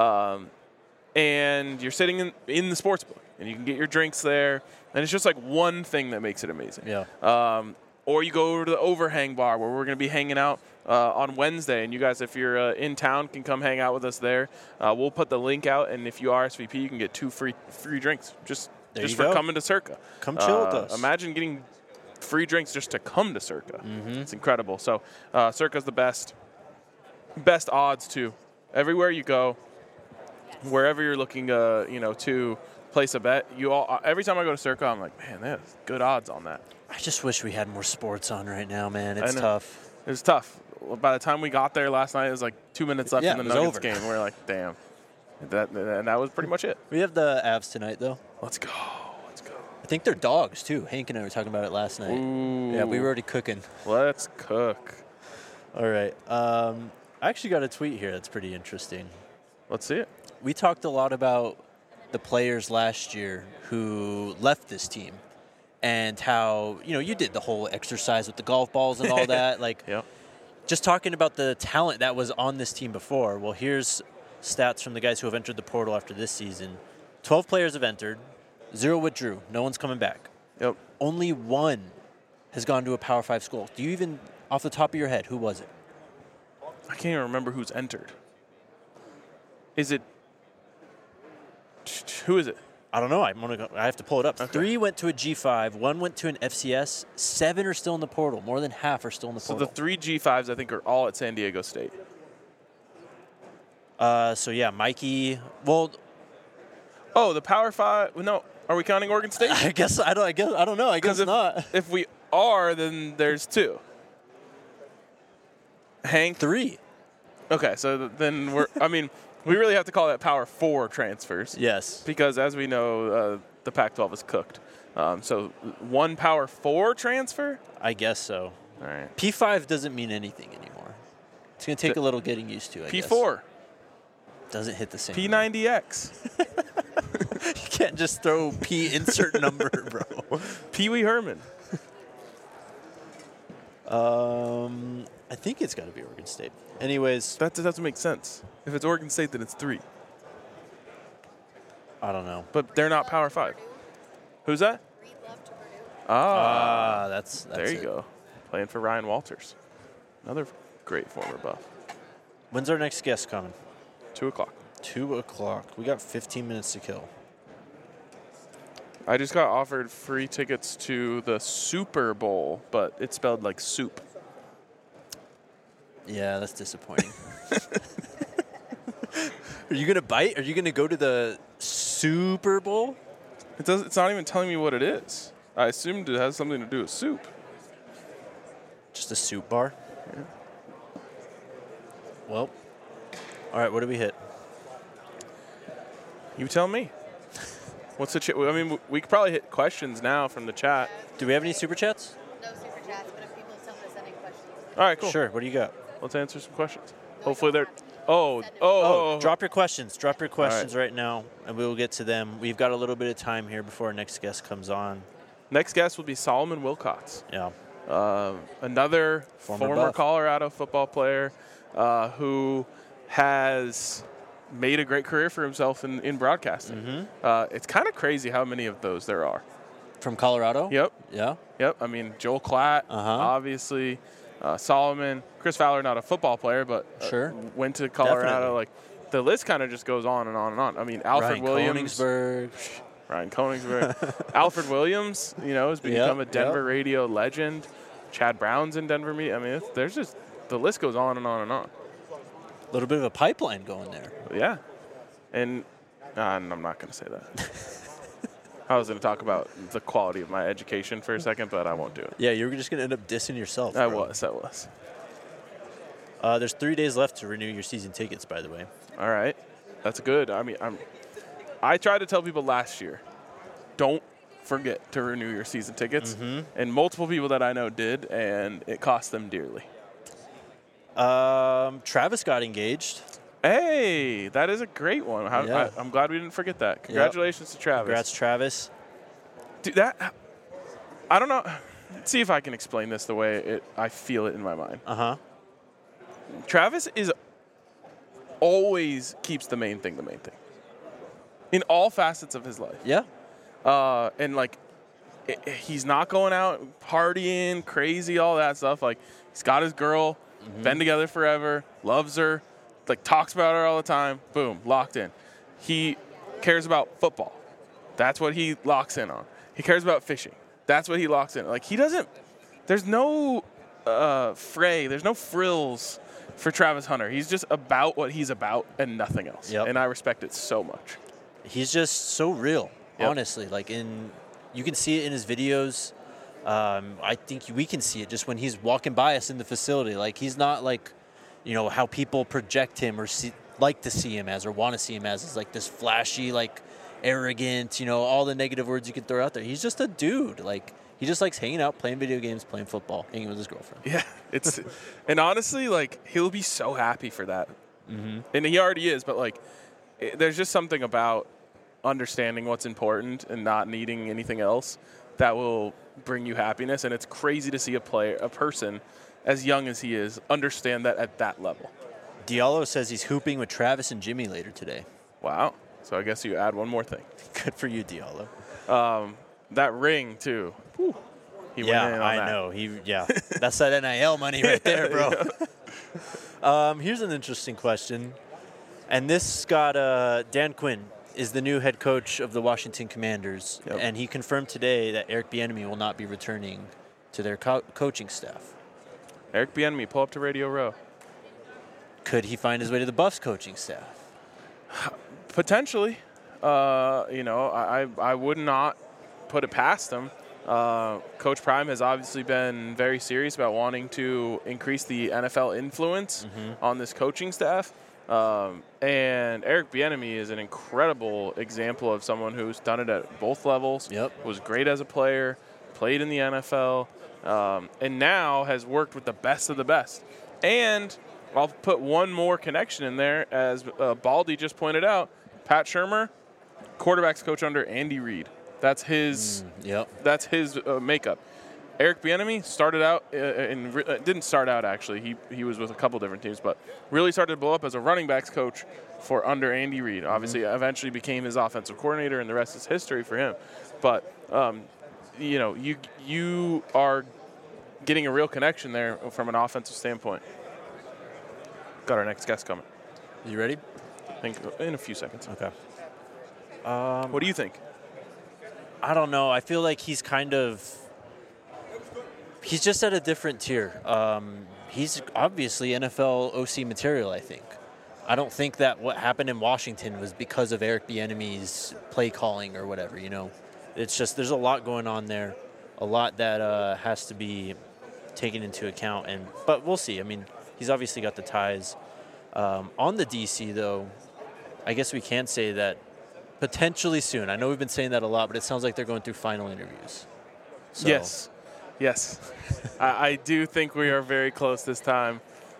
and you're sitting in the sportsbook, and you can get your drinks there. And it's just one thing that makes it amazing. Yeah. Or you go over to the Overhang Bar where we're going to be hanging out on Wednesday. And you guys, if you're in town, can come hang out with us there. We'll put the link out. And if you RSVP, you can get 2 free drinks just for coming to Circa. Come chill with us. Imagine getting free drinks just to come to Circa. Mm-hmm. It's incredible. So Circa's the best odds, too. Everywhere you go, wherever you're looking to place a bet, every time I go to Circa, I'm like, man, there's good odds on that. I just wish we had more sports on right now, man. It's tough. It was tough. By the time we got there last night, it was 2 minutes left in the Nuggets game. We were like, damn. And that was pretty much it. We have the Avs tonight, though. Let's go. I think they're dogs, too. Hank and I were talking about it last night. Ooh. Yeah, we were already cooking. Let's cook. All right. I actually got a tweet here that's pretty interesting. Let's see it. We talked a lot about the players last year who left this team and how, you did the whole exercise with the golf balls and all that. Yep. just talking about the talent that was on this team before. Well, here's stats from the guys who have entered the portal after this season. 12 players have entered, 0 withdrew. No one's coming back. Yep. Only 1 has gone to a Power 5 school. Do you even, off the top of your head, who was it? I can't even remember who's entered. Is it? Who is it? I don't know. I have to pull it up. Okay. 3 went to a G5. 1 went to an FCS. 7 are still in the portal. More than half are still in the So portal. the 3 G5s, I think, are all at San Diego State. So yeah, Mikey. Well, Oh, the Power 5. No, are we counting Oregon State? I don't know. I guess not. If we are, then there's 2. Hank. 3. Okay, so then we really have to call that Power 4 transfers. Yes. Because as we know, the Pac-12 is cooked. So 1 Power 4 transfer? I guess so. All right. P5 doesn't mean anything anymore. It's going to take a little getting used to, I guess. P4. Doesn't hit the same. P90X. You can't just throw P insert number, bro. Pee Wee Herman. I think it's got to be Oregon State. Anyways, That doesn't make sense. If it's Oregon State, then it's 3. I don't know. But they're not Power 5. Who's that? Reed Love to Purdue. That's There you it. go. Playing for Ryan Walters. Another great former Buff. When's our next guest coming? 2 o'clock. 2 o'clock. We got 15 minutes to kill. I just got offered free tickets to the Super Bowl, but it's spelled like soup. Yeah, that's disappointing. Are you going to bite? Are you going to go to the Super Bowl? It's not even telling me what it is. I assumed it has something to do with soup. Just a soup bar? Yeah. Well, all right, what do we hit? You tell me. What's the chat? I mean, we could probably hit questions now from the chat. Do we have any super chats? No super chats, but if people tell me to send in questions. All right, cool. Sure, what do you got? Let's answer some questions. No, Hopefully you they're. don't have to. Oh. Drop your questions. Drop your questions All right now, and we will get to them. We've got a little bit of time here before our next guest comes on. Next guest will be Solomon Wilcox. Yeah. Another Former former Buff. Colorado football player who has made a great career for himself in broadcasting. It's kind of crazy how many of those there are. From Colorado? Yep. Yeah. Yep. I mean, Joel Klatt, obviously. Solomon. Chris Fowler, not a football player, but Sure. went to Colorado. Definitely. Like, the list kind of just goes on and on and on. I mean, Alfred Williams. Ryan Koenigsberg. Alfred Williams, has become a Denver radio legend. Chad Brown's in Denver. I mean, there's just, the list goes on and on and on. A little bit of a pipeline going there. Yeah. And I'm not going to say that. I was going to talk about the quality of my education for a second, but I won't do it. Yeah, you were just going to end up dissing yourself. I bro. was. There's 3 days left to renew your season tickets, by the way. All right. That's good. I mean, I tried to tell people last year, don't forget to renew your season tickets. And multiple people that I know did, and it cost them dearly. Travis got engaged. Hey, that is a great one. Yeah. I'm glad we didn't forget that. Congratulations to Travis. Congrats, Travis. Dude, I don't know. Let's see if I can explain this the way I feel it in my mind. Travis always keeps the main thing. In all facets of his life. Yeah. And like, he's not going out partying, crazy, all that stuff. Like, he's got his girl, been together forever, loves her, like talks about her all the time. Boom, locked in. He cares about football. That's what he locks in on. He cares about fishing. That's what he locks in. Like, he doesn't. There's no fray. There's no frills for Travis Hunter. He's just about what he's about and nothing else. Yep. And I respect it so much. He's just so real, honestly. Like, you can see it in his videos. I think we can see it just when he's walking by us in the facility. Like, he's not like, how people project him or like to see him as or want to see him as. Is like this flashy, like arrogant, all the negative words you could throw out there. He's just a dude. Like, he just likes hanging out, playing video games, playing football, hanging with his girlfriend. Yeah, and honestly, like, he'll be so happy for that. And he already is, but like, there's just something about understanding what's important and not needing anything else that will bring you happiness. And it's crazy to see a person as young as he is, understand that at that level. Diallo says he's hooping with Travis and Jimmy later today. Wow. So I guess you add one more thing. Good for you, Diallo. That ring, too. Whew. He went in on I that. know. That's that NIL money right there, bro. Here's an interesting question. And this got Dan Quinn is the new head coach of the Washington Commanders. Yep. And he confirmed today that Eric Bieniemy will not be returning to their coaching staff. Eric Bieniemy, pull up to Radio Row. Could he find his way to the Buffs coaching staff? Potentially. I would not put it past him. Coach Prime has obviously been very serious about wanting to increase the NFL influence on this coaching staff. And Eric Bieniemy is an incredible example of someone who's done it at both levels, was great as a player, played in the NFL, and now has worked with the best of the best. And I'll put one more connection in there, as Baldy just pointed out. Pat Shurmur, quarterbacks coach under Andy Reid. That's his. That's his makeup. Eric Bieniemy started out didn't start out actually. He was with a couple different teams, but really started to blow up as a running backs coach for under Andy Reid. Obviously, eventually became his offensive coordinator, and the rest is history for him. But you are getting a real connection there from an offensive standpoint. Got our next guest coming. You ready? I think in a few seconds. Okay. What do you think? I don't know. I feel like he's just at a different tier. He's obviously NFL OC material, I think. I don't think that what happened in Washington was because of Eric Bieniemy's play calling or whatever, It's just there's a lot going on there, a lot that has to be taken into account. But we'll see. I mean, he's obviously got the ties. On the DC, though, I guess we can say that potentially soon. I know we've been saying that a lot, but it sounds like they're going through final interviews. So. Yes. I do think we are very close this time.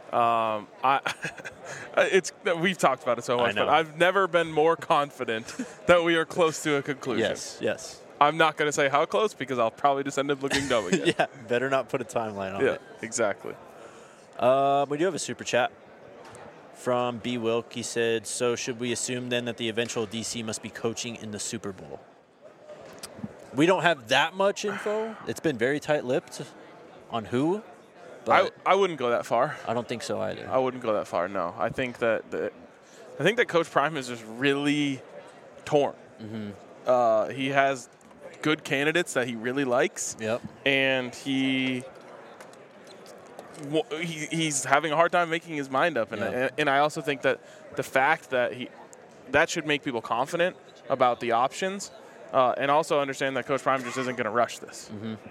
We've talked about it so much, but I've never been more confident that we are close to a conclusion. Yes. I'm not going to say how close because I'll probably just end up looking dumb again. Better not put a timeline on it. Yeah, exactly. We do have a super chat from B. Wilk. He said, so should we assume then that the eventual DC must be coaching in the Super Bowl? We don't have that much info. It's been very tight-lipped on who. But I wouldn't go that far. I don't think so either. I wouldn't go that far, no. I think that Coach Prime is just really torn. He has good candidates that he really likes. And he's having a hard time making his mind up. And I also think that the fact that that should make people confident about the options. And also understand that Coach Prime just isn't going to rush this.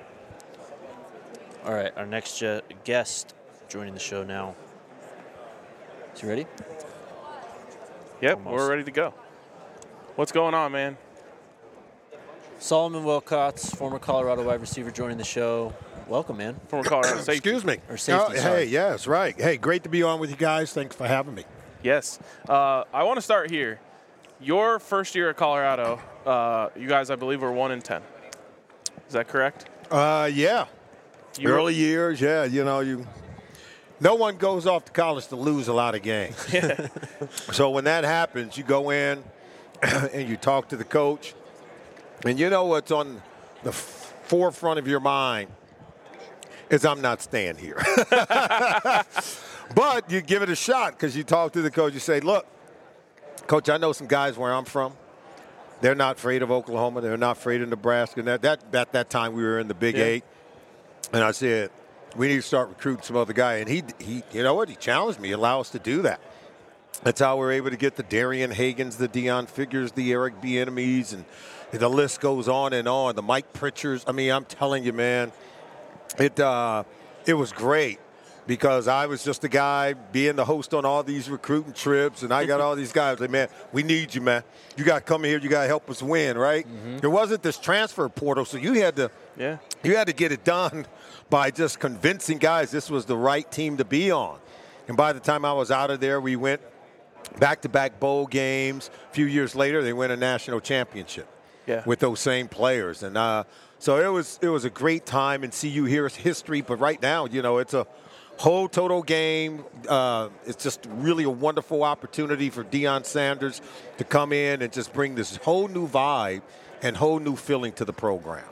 All right, our next guest joining the show now. Is he ready? Yep, we're ready to go. What's going on, man? Solomon Wilcots, former Colorado wide receiver, joining the show. Welcome, man. Former Colorado safety. Excuse me. Or safety, sorry. Hey, yes, right. Hey, great to be on with you guys. Thanks for having me. Yes. I want to start here. Your first year at Colorado, you guys, I believe, were 1-10. Is that correct? Yeah. Early years, yeah. No one goes off to college to lose a lot of games. So when that happens, you go in and you talk to the coach, and what's on the forefront of your mind is I'm not staying here. But you give it a shot because you talk to the coach. You say, look, Coach, I know some guys where I'm from. They're not afraid of Oklahoma. They're not afraid of Nebraska. And at that time, we were in the Big Eight. And I said, we need to start recruiting some other guy. And he you know what? He challenged me. Allow us to do that. That's how we're able to get the Darian Hagans, the Deion Figures, the Eric Bieniemys, and the list goes on and on. The Mike Pritchards. I mean, I'm telling you, man, it was great. Because I was just a guy being the host on all these recruiting trips, and I got all these guys like, man, we need you, man. You got to come here. You got to help us win, right? There wasn't this transfer portal, so you had to get it done by just convincing guys this was the right team to be on. And by the time I was out of there, we went back-to-back bowl games. A few years later, they win a national championship with those same players. And so it was a great time, and CU here is history. But right now, it's a whole total game. It's just really a wonderful opportunity for Deion Sanders to come in and just bring this whole new vibe and whole new feeling to the program.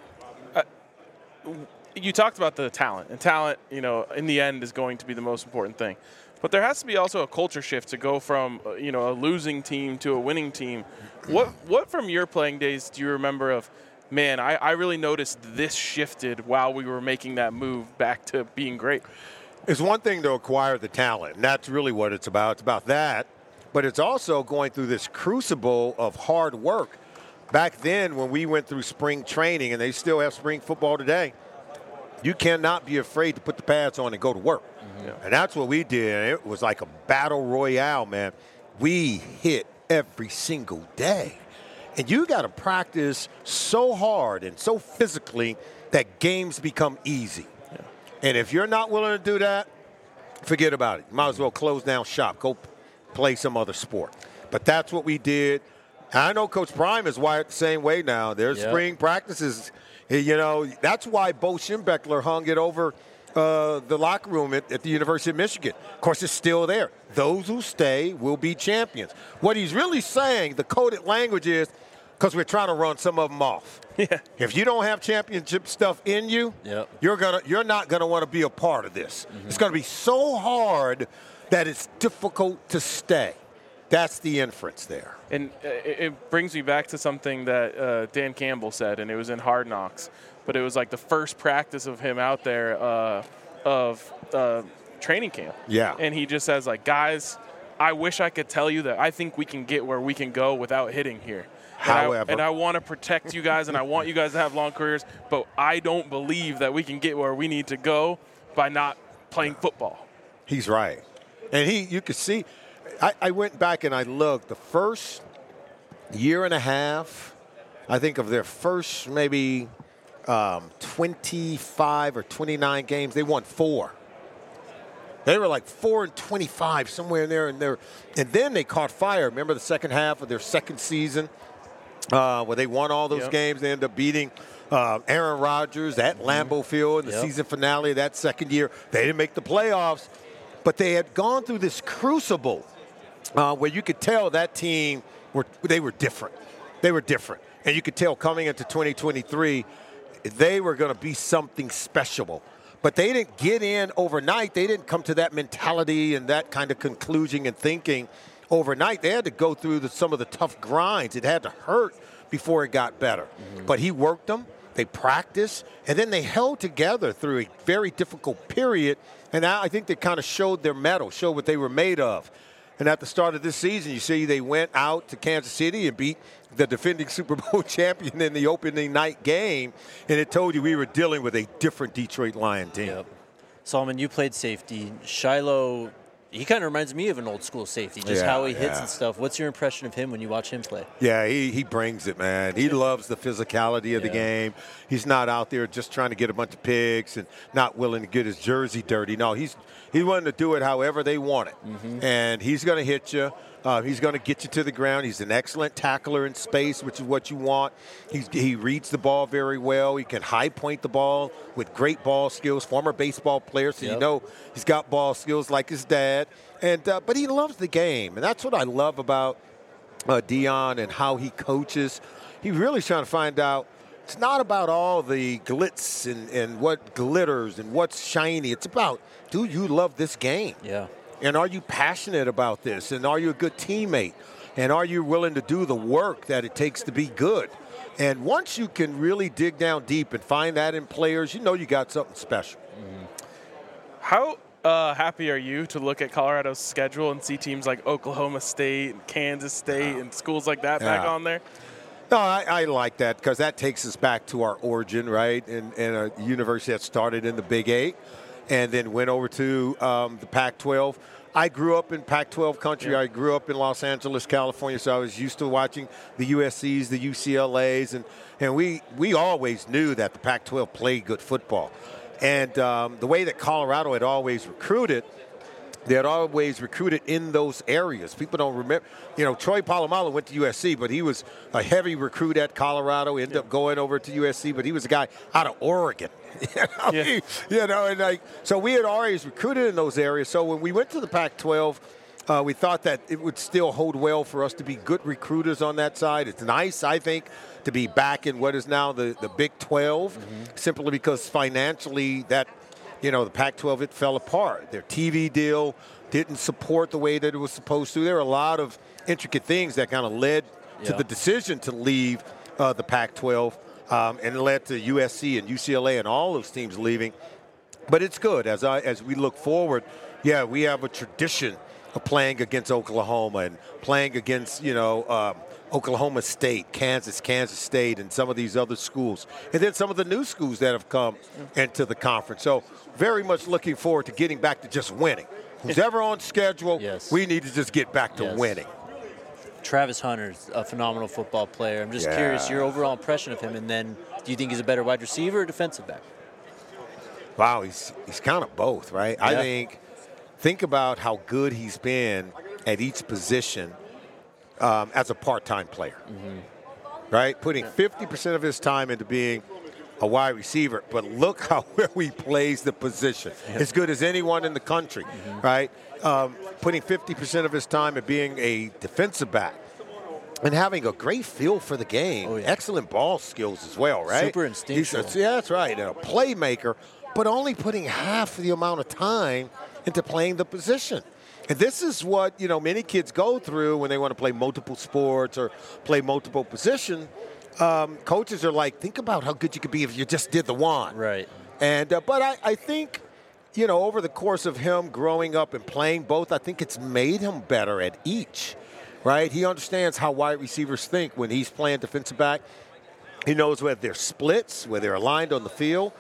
You talked about the talent, and talent, in the end is going to be the most important thing. But there has to be also a culture shift to go from, a losing team to a winning team. What from your playing days do you remember of, man, I really noticed this shifted while we were making that move back to being great? It's one thing to acquire the talent, and that's really what it's about. It's about that, but it's also going through this crucible of hard work. Back then, when we went through spring training, and they still have spring football today, you cannot be afraid to put the pads on and go to work. Mm-hmm. And that's what we did. It was like a battle royale, man. We hit every single day. And you got to practice so hard and so physically that games become easy. Yeah. And if you're not willing to do that, forget about it. You might as well close down shop. Go play some other sport. But that's what we did. And I know Coach Prime is wired the same way now. There's spring practices. That's why Bo Schembechler hung it over the locker room at the University of Michigan. Of course, it's still there. Those who stay will be champions. What he's really saying, the coded language is, because we're trying to run some of them off. Yeah. If you don't have championship stuff in you, you're not gonna want to be a part of this. Mm-hmm. It's gonna be so hard that it's difficult to stay. That's the inference there. And it brings me back to something that Dan Campbell said, and it was in Hard Knocks. But it was like the first practice of him out there of training camp. Yeah. And he just says, like, guys, I wish I could tell you that I think we can get where we can go without hitting here. However, I want to protect you guys, and I want you guys to have long careers, but I don't believe that we can get where we need to go by not playing football. He's right. And you could see – I went back and I looked. The first year and a half, I think of their first maybe 25 or 29 games, they won 4. They were like 4-25, somewhere in there. And then they caught fire. Remember the second half of their second season where they won all those games? They ended up beating Aaron Rodgers at Lambeau Field in the season finale of that second year. They didn't make the playoffs, but they had gone through this crucible where you could tell that team they were different. They were different. And you could tell coming into 2023, they were going to be something special. But they didn't get in overnight. They didn't come to that mentality and that kind of conclusion and thinking overnight. They had to go through some of the tough grinds. It had to hurt before it got better. Mm-hmm. But he worked them. They practiced. And then they held together through a very difficult period. And I think they kind of showed their mettle, showed what they were made of. And at the start of this season, you see they went out to Kansas City and beat the defending Super Bowl champion in the opening night game. And it told you we were dealing with a different Detroit Lion team. Yep. Solomon, you played safety. Shiloh, he kind of reminds me of an old school safety, just how he hits and stuff. What's your impression of him when you watch him play? Yeah, he brings it, man. He loves the physicality of the game. He's not out there just trying to get a bunch of picks and not willing to get his jersey dirty. No, he's willing to do it however they want it. Mm-hmm. And he's going to hit you. He's going to get you to the ground. He's an excellent tackler in space, which is what you want. He reads the ball very well. He can high point the ball with great ball skills. Former baseball player, so you know he's got ball skills like his dad. And but he loves the game, and that's what I love about Deion and how he coaches. He really is trying to find out. It's not about all the glitz and what glitters and what's shiny. It's about, do you love this game? Yeah. And are you passionate about this? And are you a good teammate? And are you willing to do the work that it takes to be good? And once you can really dig down deep and find that in players, you know you got something special. Mm-hmm. How happy are you to look at Colorado's schedule and see teams like Oklahoma State and Kansas State and schools like that back on there? No, I like that because that takes us back to our origin, right? And a university that started in the Big 8 and then went over to the Pac-12. I grew up in Pac-12 country. Yeah. I grew up in Los Angeles, California, so I was used to watching the USCs, the UCLAs, and we always knew that the Pac-12 played good football. And the way that Colorado had always recruited, they had always recruited in those areas. People don't remember. Troy Polamalu went to USC, but he was a heavy recruit at Colorado. Ended up going over to USC, but he was a guy out of Oregon. So we had always recruited in those areas. So when we went to the Pac-12, we thought that it would still hold well for us to be good recruiters on that side. It's nice, I think, to be back in what is now the Big 12, simply because financially that – the Pac-12, it fell apart. Their TV deal didn't support the way that it was supposed to. There were a lot of intricate things that kind of led to the decision to leave the Pac-12, and it led to USC and UCLA and all those teams leaving. But it's good as we look forward. Yeah, we have a tradition of playing against Oklahoma and playing against Oklahoma State, Kansas State, and some of these other schools. And then some of the new schools that have come into the conference. So very much looking forward to getting back to just winning. Who's ever on schedule, we need to just get back to winning. Travis Hunter's a phenomenal football player. I'm just curious, your overall impression of him, and then do you think he's a better wide receiver or defensive back? Wow, he's kind of both, right? Yeah. I think about how good he's been at each position as a part-time player, right? Putting 50% of his time into being a wide receiver, but look how well he plays the position. As good as anyone in the country, right? Putting 50% of his time at being a defensive back and having a great feel for the game. Excellent ball skills as well, right? Super instinctual. That's right. And a playmaker, but only putting half the amount of time into playing the position. And this is what, many kids go through when they want to play multiple sports or play multiple positions. Coaches are like, think about how good you could be if you just did the one. Right. And but I think, over the course of him growing up and playing both, I think it's made him better at each, right? He understands how wide receivers think when he's playing defensive back. He knows where they're splits, where they're aligned on the field,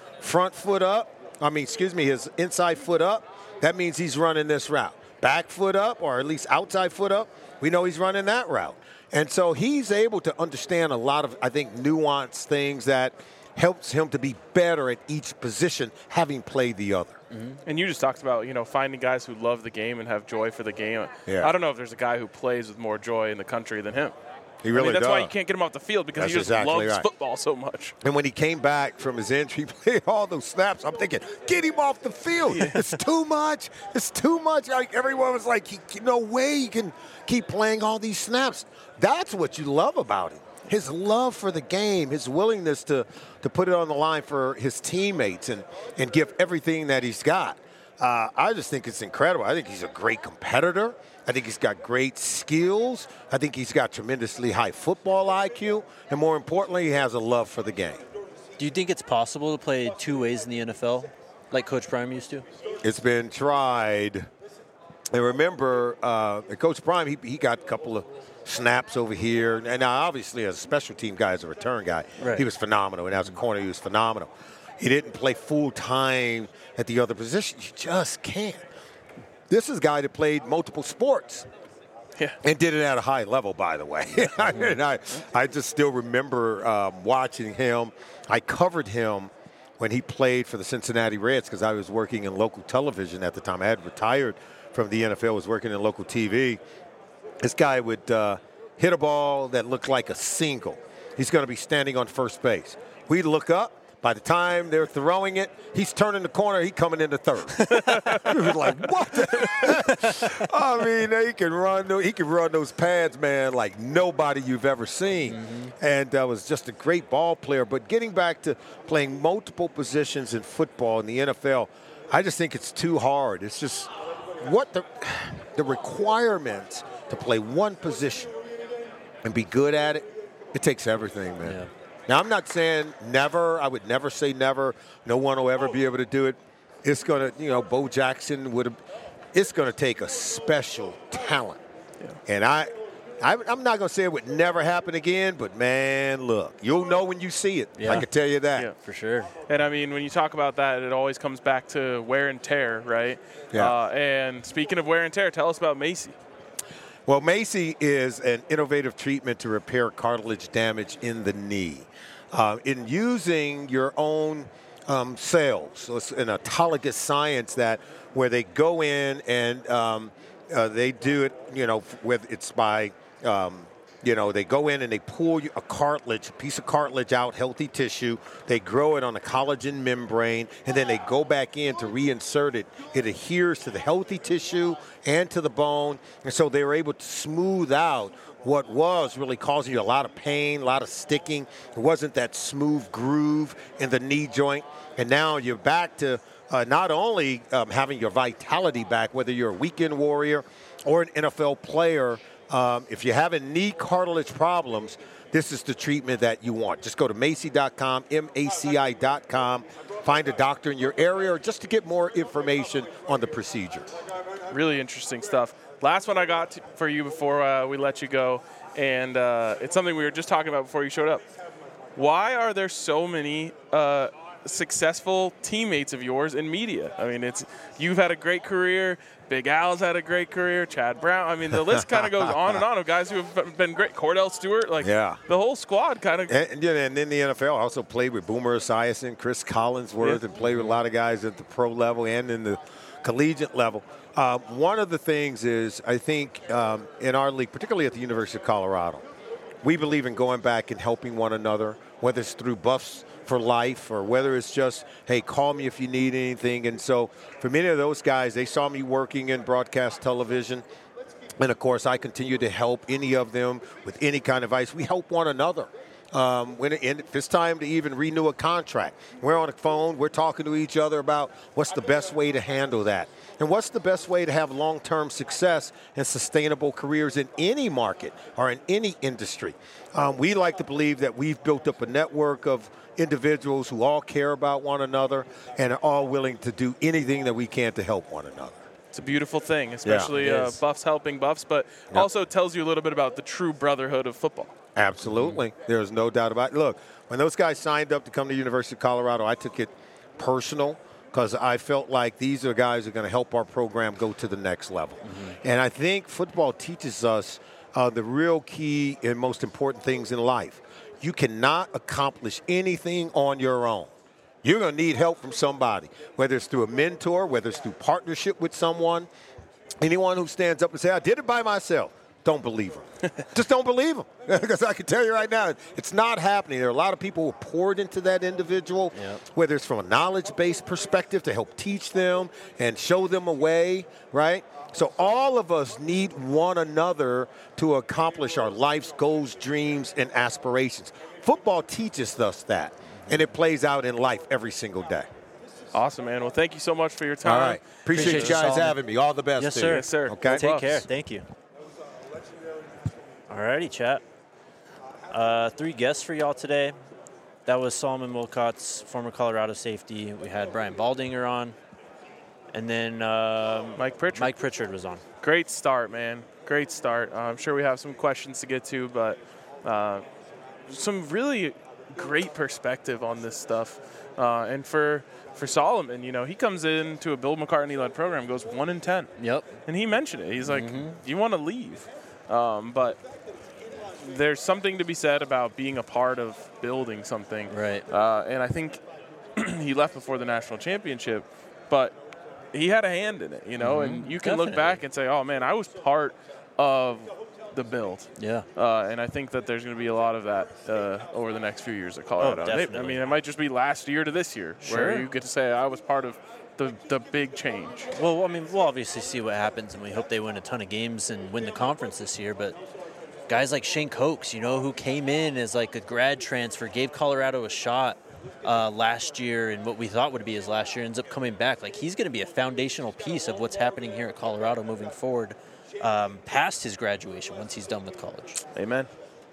his inside foot up. That means he's running this route. Back foot up, or at least outside foot up, we know he's running that route. And so he's able to understand a lot of, I think, nuanced things that helps him to be better at each position, having played the other. And you just talked about, finding guys who love the game and have joy for the game. Yeah. I don't know if there's a guy who plays with more joy in the country than him. He really that's does. why you can't get him off the field, because he just loves football so much. And when he came back from his injury, he played all those snaps. I'm thinking, get him off the field. Yeah. It's too much. It's too much. Like, everyone was like, no way he can keep playing all these snaps. That's what you love about him. His love for the game, his willingness to put it on the line for his teammates and give everything that he's got. I just think it's incredible. I think he's a great competitor. I think he's got great skills. I think he's got tremendously high football IQ. And more importantly, he has a love for the game. Do you think it's possible to play two ways in the NFL like Coach Prime used to? It's been tried. And remember, Coach Prime, he got a couple of snaps over here. And now, obviously, as a special team guy, as a return guy, he was phenomenal. And as a corner, he was phenomenal. He didn't play full time at the other position. You just can't. This is a guy that played multiple sports and did it at a high level, by the way. I just still remember watching him. I covered him when he played for the Cincinnati Reds because I was working in local television at the time. I had retired from the NFL, was working in local TV. This guy would hit a ball that looked like a single. He's going to be standing on first base. We'd look up. By the time they're throwing it, he's turning the corner. He's coming into third. We were like, what the heck? I mean, he can run those pads, man, like nobody you've ever seen. And was just a great ball player. But getting back to playing multiple positions in football in the NFL, I just think it's too hard. It's just what the requirements to play one position and be good at it, it takes everything, man. Yeah. Now, I'm not saying never. I would never say never. No one will ever be able to do it. It's going to, Bo Jackson would have. It's going to take a special talent. Yeah. And I'm not going to say it would never happen again, but, man, look, you'll know when you see it. Yeah. I can tell you that. Yeah, for sure. And, I mean, when you talk about that, it always comes back to wear and tear, right? Yeah. And speaking of wear and tear, tell us about MACI. Well, MACI is an innovative treatment to repair cartilage damage in the knee. In using your own cells. So it's an autologous science where they go in and they do it, it's by, they go in and they pull a piece of cartilage out, healthy tissue. They grow it on a collagen membrane, and then they go back in to reinsert it. It adheres to the healthy tissue and to the bone, and so they were able to smooth out what was really causing you a lot of pain, a lot of sticking. It wasn't that smooth groove in the knee joint, and now you're back to not only having your vitality back, whether you're a weekend warrior or an NFL player. If you're having knee cartilage problems, this is the treatment that you want. Just go to Maci.com, MACI.com, find a doctor in your area, or just to get more information on the procedure. Really interesting stuff. Last one I got for you before we let you go, and it's something we were just talking about before you showed up. Why are there so many successful teammates of yours in media? I mean, you've had a great career. Big Al's had a great career. Chad Brown. I mean, the list kind of goes on and on of guys who have been great. Cordell Stewart. The whole squad kind of. And in the NFL, I also played with Boomer Esiason, Chris Collinsworth, and played with a lot of guys at the pro level and in the collegiate level. One of the things is, I think, in our league, particularly at the University of Colorado, we believe in going back and helping one another, whether it's through Buffs for Life or whether it's just, hey, call me if you need anything. And so for many of those guys, they saw me working in broadcast television. And, of course, I continue to help any of them with any kind of advice. We help one another. If it's time to even renew a contract, we're on the phone, we're talking to each other about what's the best way to handle that. And what's the best way to have long-term success and sustainable careers in any market or in any industry. We like to believe that we've built up a network of individuals who all care about one another and are all willing to do anything that we can to help one another. It's a beautiful thing, especially Buffs helping Buffs, but also tells you a little bit about the true brotherhood of football. Absolutely. There's no doubt about it. Look, when those guys signed up to come to the University of Colorado, I took it personal because I felt like these are guys who are going to help our program go to the next level. Mm-hmm. And I think football teaches us the real key and most important things in life. You cannot accomplish anything on your own. You're going to need help from somebody, whether it's through a mentor, whether it's through partnership with someone. Anyone who stands up and says, I did it by myself, don't believe them. Just don't believe them. Because I can tell you right now, it's not happening. There are a lot of people who poured into that individual, whether it's from a knowledge-based perspective to help teach them and show them a way, right? So all of us need one another to accomplish our life's goals, dreams, and aspirations. Football teaches us that, and it plays out in life every single day. Awesome, man. Well, thank you so much for your time. All right. Appreciate you guys having me. All the best. Yes, sir. Yes, sir. Okay. Take care. Thank you. All righty, chat. 3 guests for y'all today. That was Solomon Wilcots, former Colorado safety. We had Brian Baldinger on. And then Mike Pritchard. Mike Pritchard was on. Great start, man. Great start. I'm sure we have some questions to get to, but some really great perspective on this stuff. And for Solomon, he comes into a Bill McCartney-led program, goes 1-10. Yep. And he mentioned it. He's like, you want to leave. But there's something to be said about being a part of building something. Right. And I think he left before the national championship, but he had a hand in it, and you can look back and say, oh, man, I was part of the build. Yeah. And I think that there's going to be a lot of that over the next few years at Colorado. Oh, definitely. I mean, it might just be last year to this year where you get to say I was part of the big change. Well, I mean, we'll obviously see what happens, and we hope they win a ton of games and win the conference this year, but guys like Shane Cokes, who came in as like a grad transfer, gave Colorado a shot last year, and what we thought would be his last year ends up coming back. Like, he's going to be a foundational piece of what's happening here at Colorado moving forward past his graduation once he's done with college. Amen.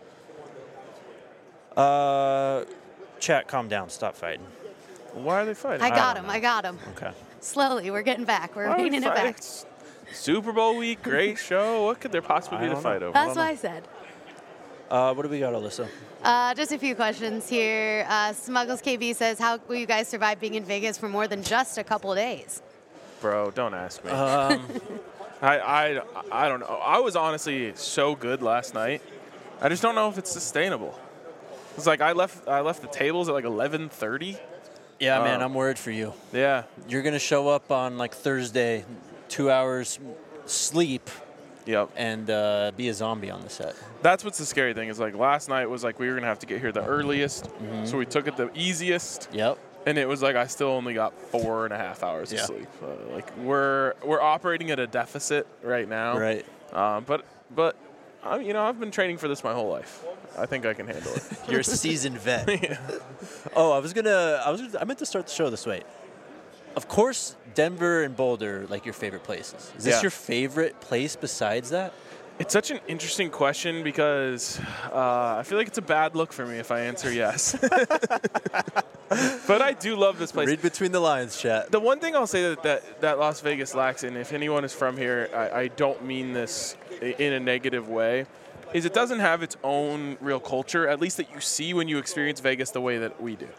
Chat, calm down. Stop fighting. Why are they fighting? I got him. Okay. Slowly, we're getting back. We're reining it back. It's Super Bowl week, great show. What could there possibly be to fight over? That's what I said. What do we got, Alyssa? Just a few questions here. Smuggles KB says, how will you guys survive being in Vegas for more than just a couple of days? Bro, don't ask me. I don't know. I was honestly so good last night. I just don't know if it's sustainable. It's like I left the tables at like 11:30, Yeah, man, I'm worried for you. Yeah. You're going to show up on like Thursday, 2 hours sleep. Yep. And be a zombie on the set. That's what's the scary thing is like last night was like we were going to have to get here the earliest. So we took it the easiest. Yep. And it was like I still only got 4.5 hours of sleep. Like we're operating at a deficit right now. Right. But I've been training for this my whole life. I think I can handle it. You're a seasoned vet. Yeah. Oh, I meant to start the show this way. Of course, Denver and Boulder, like your favorite places. Is this your favorite place besides that? It's such an interesting question because I feel like it's a bad look for me if I answer yes. But I do love this place. Read between the lines, chat. The one thing I'll say that Las Vegas lacks, and if anyone is from here, I don't mean this in a negative way, is it doesn't have its own real culture, at least that you see when you experience Vegas the way that we do.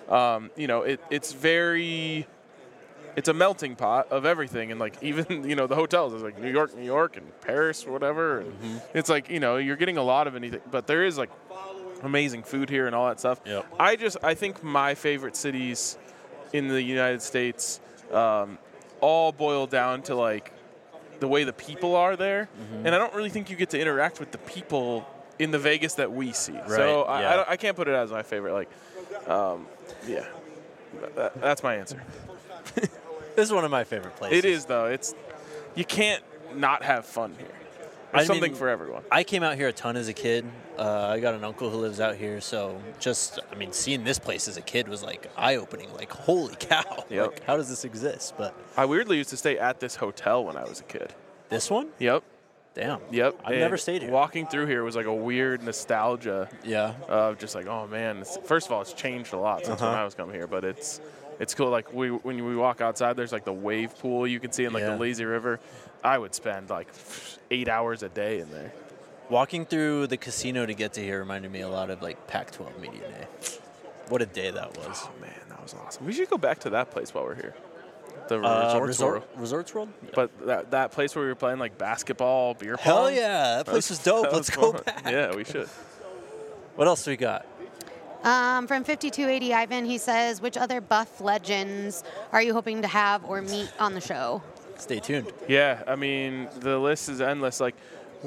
It's a melting pot of everything, and like even the hotels is like New York, and Paris, whatever. And it's like you're getting a lot of anything, but there is like amazing food here and all that stuff. Yep. I think my favorite cities in the United States all boil down to like the way the people are there, and I don't really think you get to interact with the people in the Vegas that we see. Right, so I can't put it as my favorite. Like, that's my answer. This is one of my favorite places. It is, though. You can't not have fun here. There's something for everyone. I came out here a ton as a kid. I got an uncle who lives out here, so seeing this place as a kid was like eye-opening. Like, holy cow! Yep. Like, how does this exist? But I weirdly used to stay at this hotel when I was a kid. This one? Yep. Damn. Yep. I've never stayed here. Walking through here was like a weird nostalgia. Yeah. Of just like, oh man. First of all, it's changed a lot since when I was coming here, but it's cool. Like when we walk outside, there's like the wave pool you can see in like the lazy river. I would spend like 8 hours a day in there. Walking through the casino to get to here reminded me a lot of like Pac-12 Media Day. What a day that was. Oh man, that was awesome. We should go back to that place while we're here. The Resorts World? Yeah. But that place where we were playing like basketball, beer pong. Hell yeah, that place was dope. Let's go back. Yeah, we should. What else do we got? From 5280 Ivan, he says, which other Buff legends are you hoping to have or meet on the show? Stay tuned. Yeah, I mean, the list is endless. Like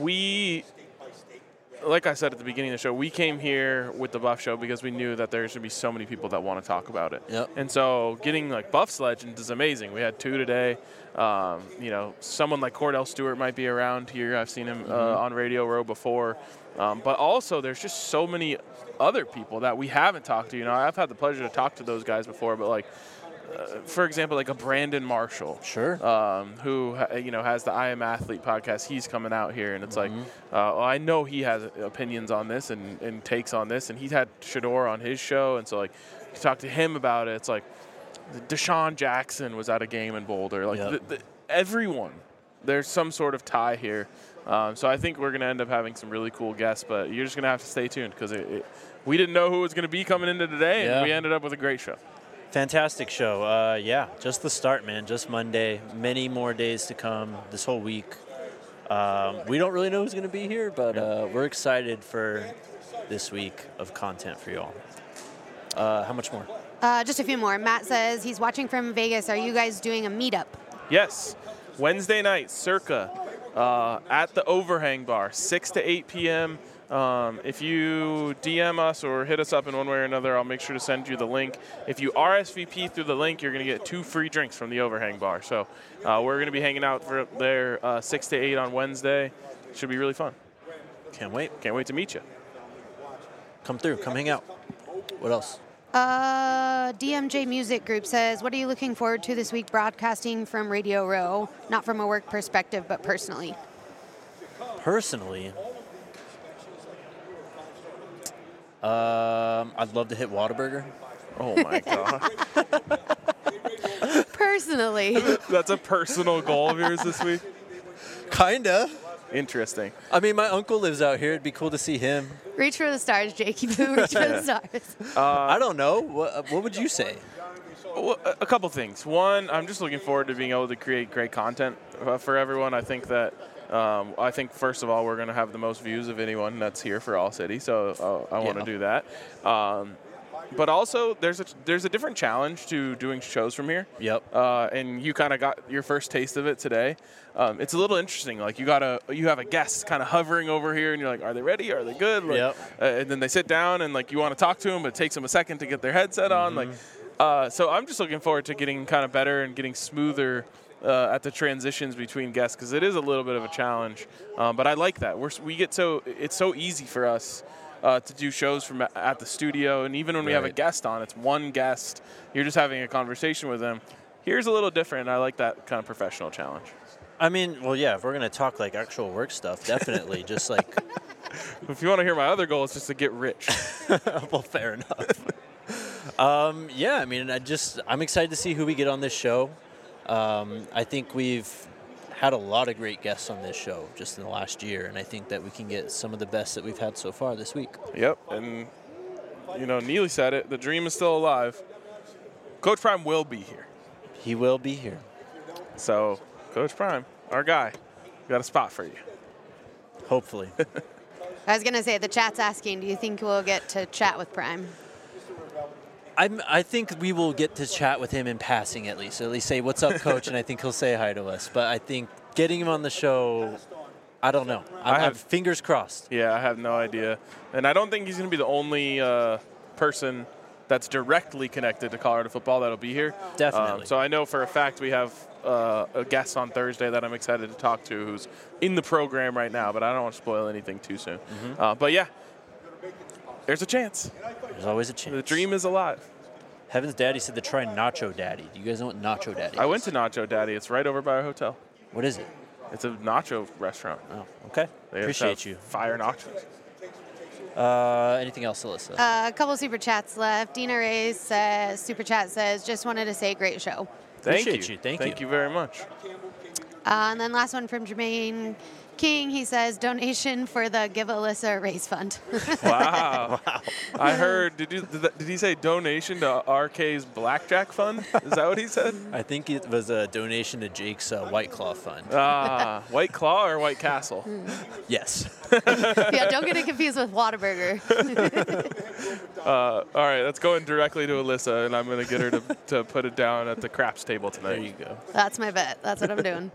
I said at the beginning of the show, we came here with the Buff Show because we knew that there's going to be so many people that want to talk about it. Yep. And so getting like Buff's legends is amazing. We had 2 today. Someone like Cordell Stewart might be around here. I've seen him on Radio Row before. But also there's just so many other people that we haven't talked to. I've had the pleasure to talk to those guys before, but like, for example, like a Brandon Marshall, sure, who has the I Am Athlete podcast. He's coming out here, and it's like, I know he has opinions on this and takes on this, and he had Shedeur on his show, and so like, you talk to him about it. It's like, Deshaun Jackson was at a game in Boulder. Like everyone, there's some sort of tie here. So I think we're going to end up having some really cool guests, but you're just going to have to stay tuned because we didn't know who was going to be coming into today, and we ended up with a great show. Fantastic show. Just the start, man. Just Monday. Many more days to come this whole week. We don't really know who's going to be here, but we're excited for this week of content for you all. How much more? Just a few more. Matt says he's watching from Vegas. Are you guys doing a meetup? Yes. Wednesday night, circa, at the Overhang Bar, 6 to 8 p.m., if you DM us or hit us up in one way or another, I'll make sure to send you the link. If you RSVP through the link, you're going to get 2 free drinks from the Overhang Bar. So we're going to be hanging out for there 6 to 8 on Wednesday. Should be really fun. Can't wait. Can't wait to meet you. Come through. Come hang out. What else? DMJ Music Group says, what are you looking forward to this week broadcasting from Radio Row? Not from a work perspective, but personally. Personally? I'd love to hit Whataburger. Oh, my God. Personally. That's a personal goal of yours this week? Kinda. Interesting. I mean, my uncle lives out here. It'd be cool to see him. Reach for the stars, Jakey Boo. Reach for the stars. I don't know. What would you say? Well, a couple things. One, I'm just looking forward to being able to create great content for everyone. I think that first of all, we're going to have the most views of anyone that's here for All City, so I want to do that. but also there's a different challenge to doing shows from here. Yep. And you kind of got your first taste of it today. It's a little interesting. Like you have a guest kind of hovering over here, and you're like, are they ready? Are they good? Like, yep. And then they sit down, and like you want to talk to them, but it takes them a second to get their headset on. Like, so I'm just looking forward to getting kind of better and getting smoother at the transitions between guests, because it is a little bit of a challenge. But I like that. It's so easy for us to do shows from at the studio, and even when we have a guest on, it's one guest. You're just having a conversation with them. Here's a little different. I like that kind of professional challenge. I mean, well, yeah, if we're going to talk like actual work stuff, definitely. Just like. If you want to hear my other goal, it's just to get rich. Well, fair enough. Yeah, I mean, I'm excited to see who we get on this show. I think we've had a lot of great guests on this show just in the last year, and I think that we can get some of the best that we've had so far this week. Yep, and, Neely said it. The dream is still alive. Coach Prime will be here. He will be here. So, Coach Prime, our guy, we got a spot for you. Hopefully. I was going to say, the chat's asking, do you think we'll get to chat with Prime? I think we will get to chat with him in passing at least. At least say, what's up, Coach? And I think he'll say hi to us. But I think getting him on the show, I don't know. I have fingers crossed. Yeah, I have no idea. And I don't think he's going to be the only person that's directly connected to Colorado football that'll be here. Definitely. So I know for a fact we have a guest on Thursday that I'm excited to talk to who's in the program right now, but I don't want to spoil anything too soon. But yeah, there's a chance. There's always a chance. The dream is alive. Heaven's Daddy said to try Nacho Daddy. Do you guys know what Nacho Daddy is? I went to Nacho Daddy. It's right over by our hotel. What is it? It's a nacho restaurant. Oh, okay. They Appreciate you. Fire nachos. Anything else, Alyssa? A couple super chats left. Dina Reyes says, super chat says, just wanted to say great show. Appreciate you. Thank you very much. And then last one from Jermaine King. He says, donation for the Give Alyssa a Raise Fund. Wow. I heard, did he say donation to RK's Blackjack Fund? Is that what he said? I think it was a donation to Jake's White Claw Fund. White Claw or White Castle? Yes. Yeah, don't get it confused with Whataburger. All right, that's going directly to Alyssa, and I'm going to get her to put it down at the craps table tonight. There you go. That's my bet. That's what I'm doing.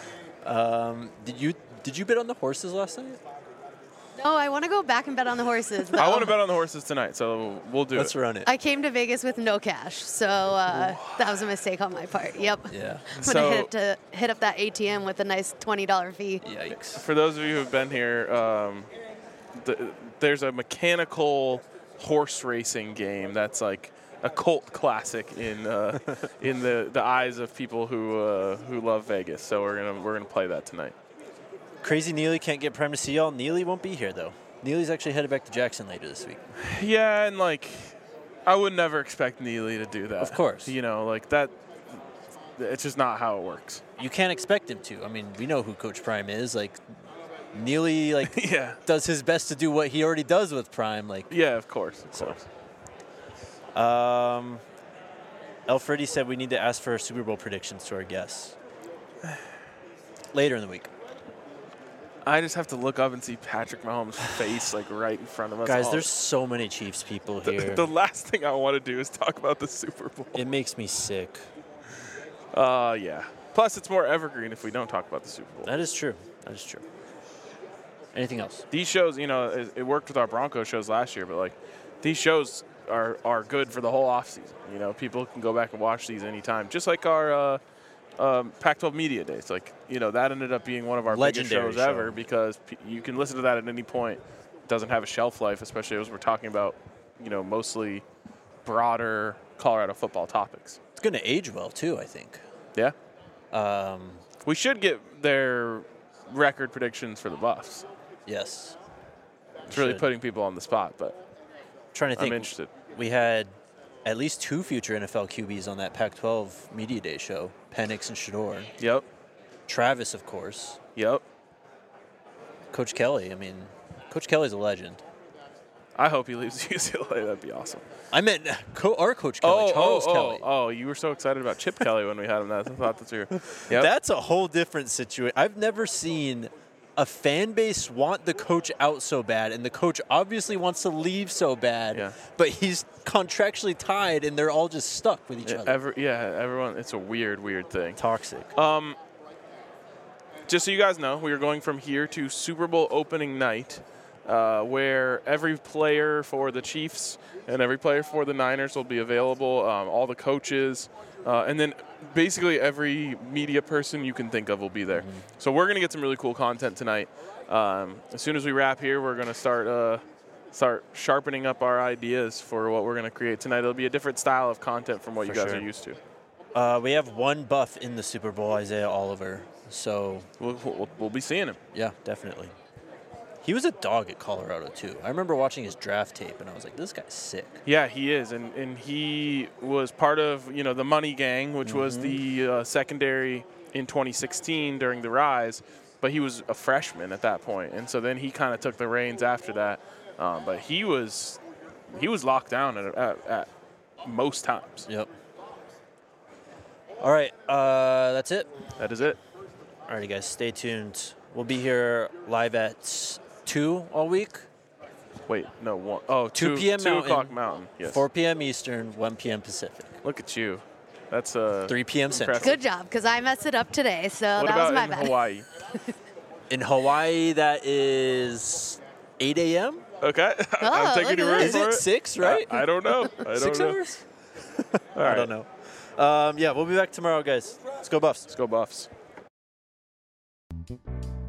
Did you bet on the horses last night? No, I want to go back and bet on the horses, though. I want to bet on the horses tonight, so we'll do Let's run it. I came to Vegas with no cash, so that was a mistake on my part. Yep. Yeah. I'm going to hit up that ATM with a nice $20 fee. Yikes. For those of you who have been here, there's a mechanical horse racing game that's like a cult classic in the eyes of people who love Vegas. So we're gonna play that tonight. Crazy Neely can't get Prime to see y'all. Neely won't be here though. Neely's actually headed back to Jackson later this week. Yeah, and I would never expect Neely to do that. Of course. That. It's just not how it works. You can't expect him to. I mean, we know who Coach Prime is. Neely yeah. does his best to do what he already does with Prime. Yeah, of course. Alfredi said we need to ask for Super Bowl predictions to our guests later in the week. I just have to look up and see Patrick Mahomes' face right in front of us. Guys, there's so many Chiefs people here. The last thing I want to do is talk about the Super Bowl. It makes me sick. Yeah. Plus, it's more evergreen if we don't talk about the Super Bowl. That is true. Anything else? These shows, it worked with our Broncos shows last year, but these shows are good for the whole offseason. People can go back and watch these anytime. Just like our Pac-12 Media Days. That ended up being one of our biggest shows ever because you can listen to that at any point. It doesn't have a shelf life, especially as we're talking about, mostly broader Colorado football topics. It's going to age well, too, I think. Yeah. We should get their record predictions for the Buffs. Yes. It's really putting people on the spot, but trying to think. I'm interested. We had at least 2 future NFL QBs on that Pac-12 Media Day show, Penix and Shador. Yep. Travis, of course. Yep. Coach Kelly. I mean, Coach Kelly's a legend. I hope he leaves UCLA. That'd be awesome. I meant our Coach Kelly, Charles Kelly. Oh, you were so excited about Chip Kelly when we had him. I thought that you were. Yep. That's a whole different situation. I've never seen a fan base want the coach out so bad, and the coach obviously wants to leave so bad, but he's contractually tied, and they're all just stuck with each other. Everyone. It's a weird thing. Toxic. Just so you guys know, we are going from here to Super Bowl opening night, where every player for the Chiefs and every player for the Niners will be available, all the coaches, and then basically every media person you can think of will be there. So we're going to get some really cool content tonight. As soon as we wrap here, we're going to start sharpening up our ideas for what we're going to create tonight. It'll be a different style of content from what you guys are used to. We have one buff in the Super Bowl, Isaiah Oliver. So we'll be seeing him. Yeah, definitely. He was a dog at Colorado, too. I remember watching his draft tape, and I was like, this guy's sick. Yeah, he is. And he was part of, the Money Gang, which was the secondary in 2016 during the rise. But he was a freshman at that point. And so then he kind of took the reins after that. But he was locked down at most times. Yep. All right, that's it. That is it. All righty, guys, stay tuned. We'll be here live at 2 all week. Wait, no, 1. Oh, 2 p.m. 2 o'clock Mountain. Yes. 4 p.m. Eastern, 1 p.m. Pacific. Look at you. That's 3 p.m. Central. Good job, because I messed it up today, so what that was my about bad. Hawaii? In Hawaii, that is 8 a.m. Okay. Oh, I'm taking your word Is for it it. 6, right? I don't know. 6 hours? All right. I don't know. Yeah, we'll be back tomorrow, guys. Let's go Buffs. Let's go Buffs.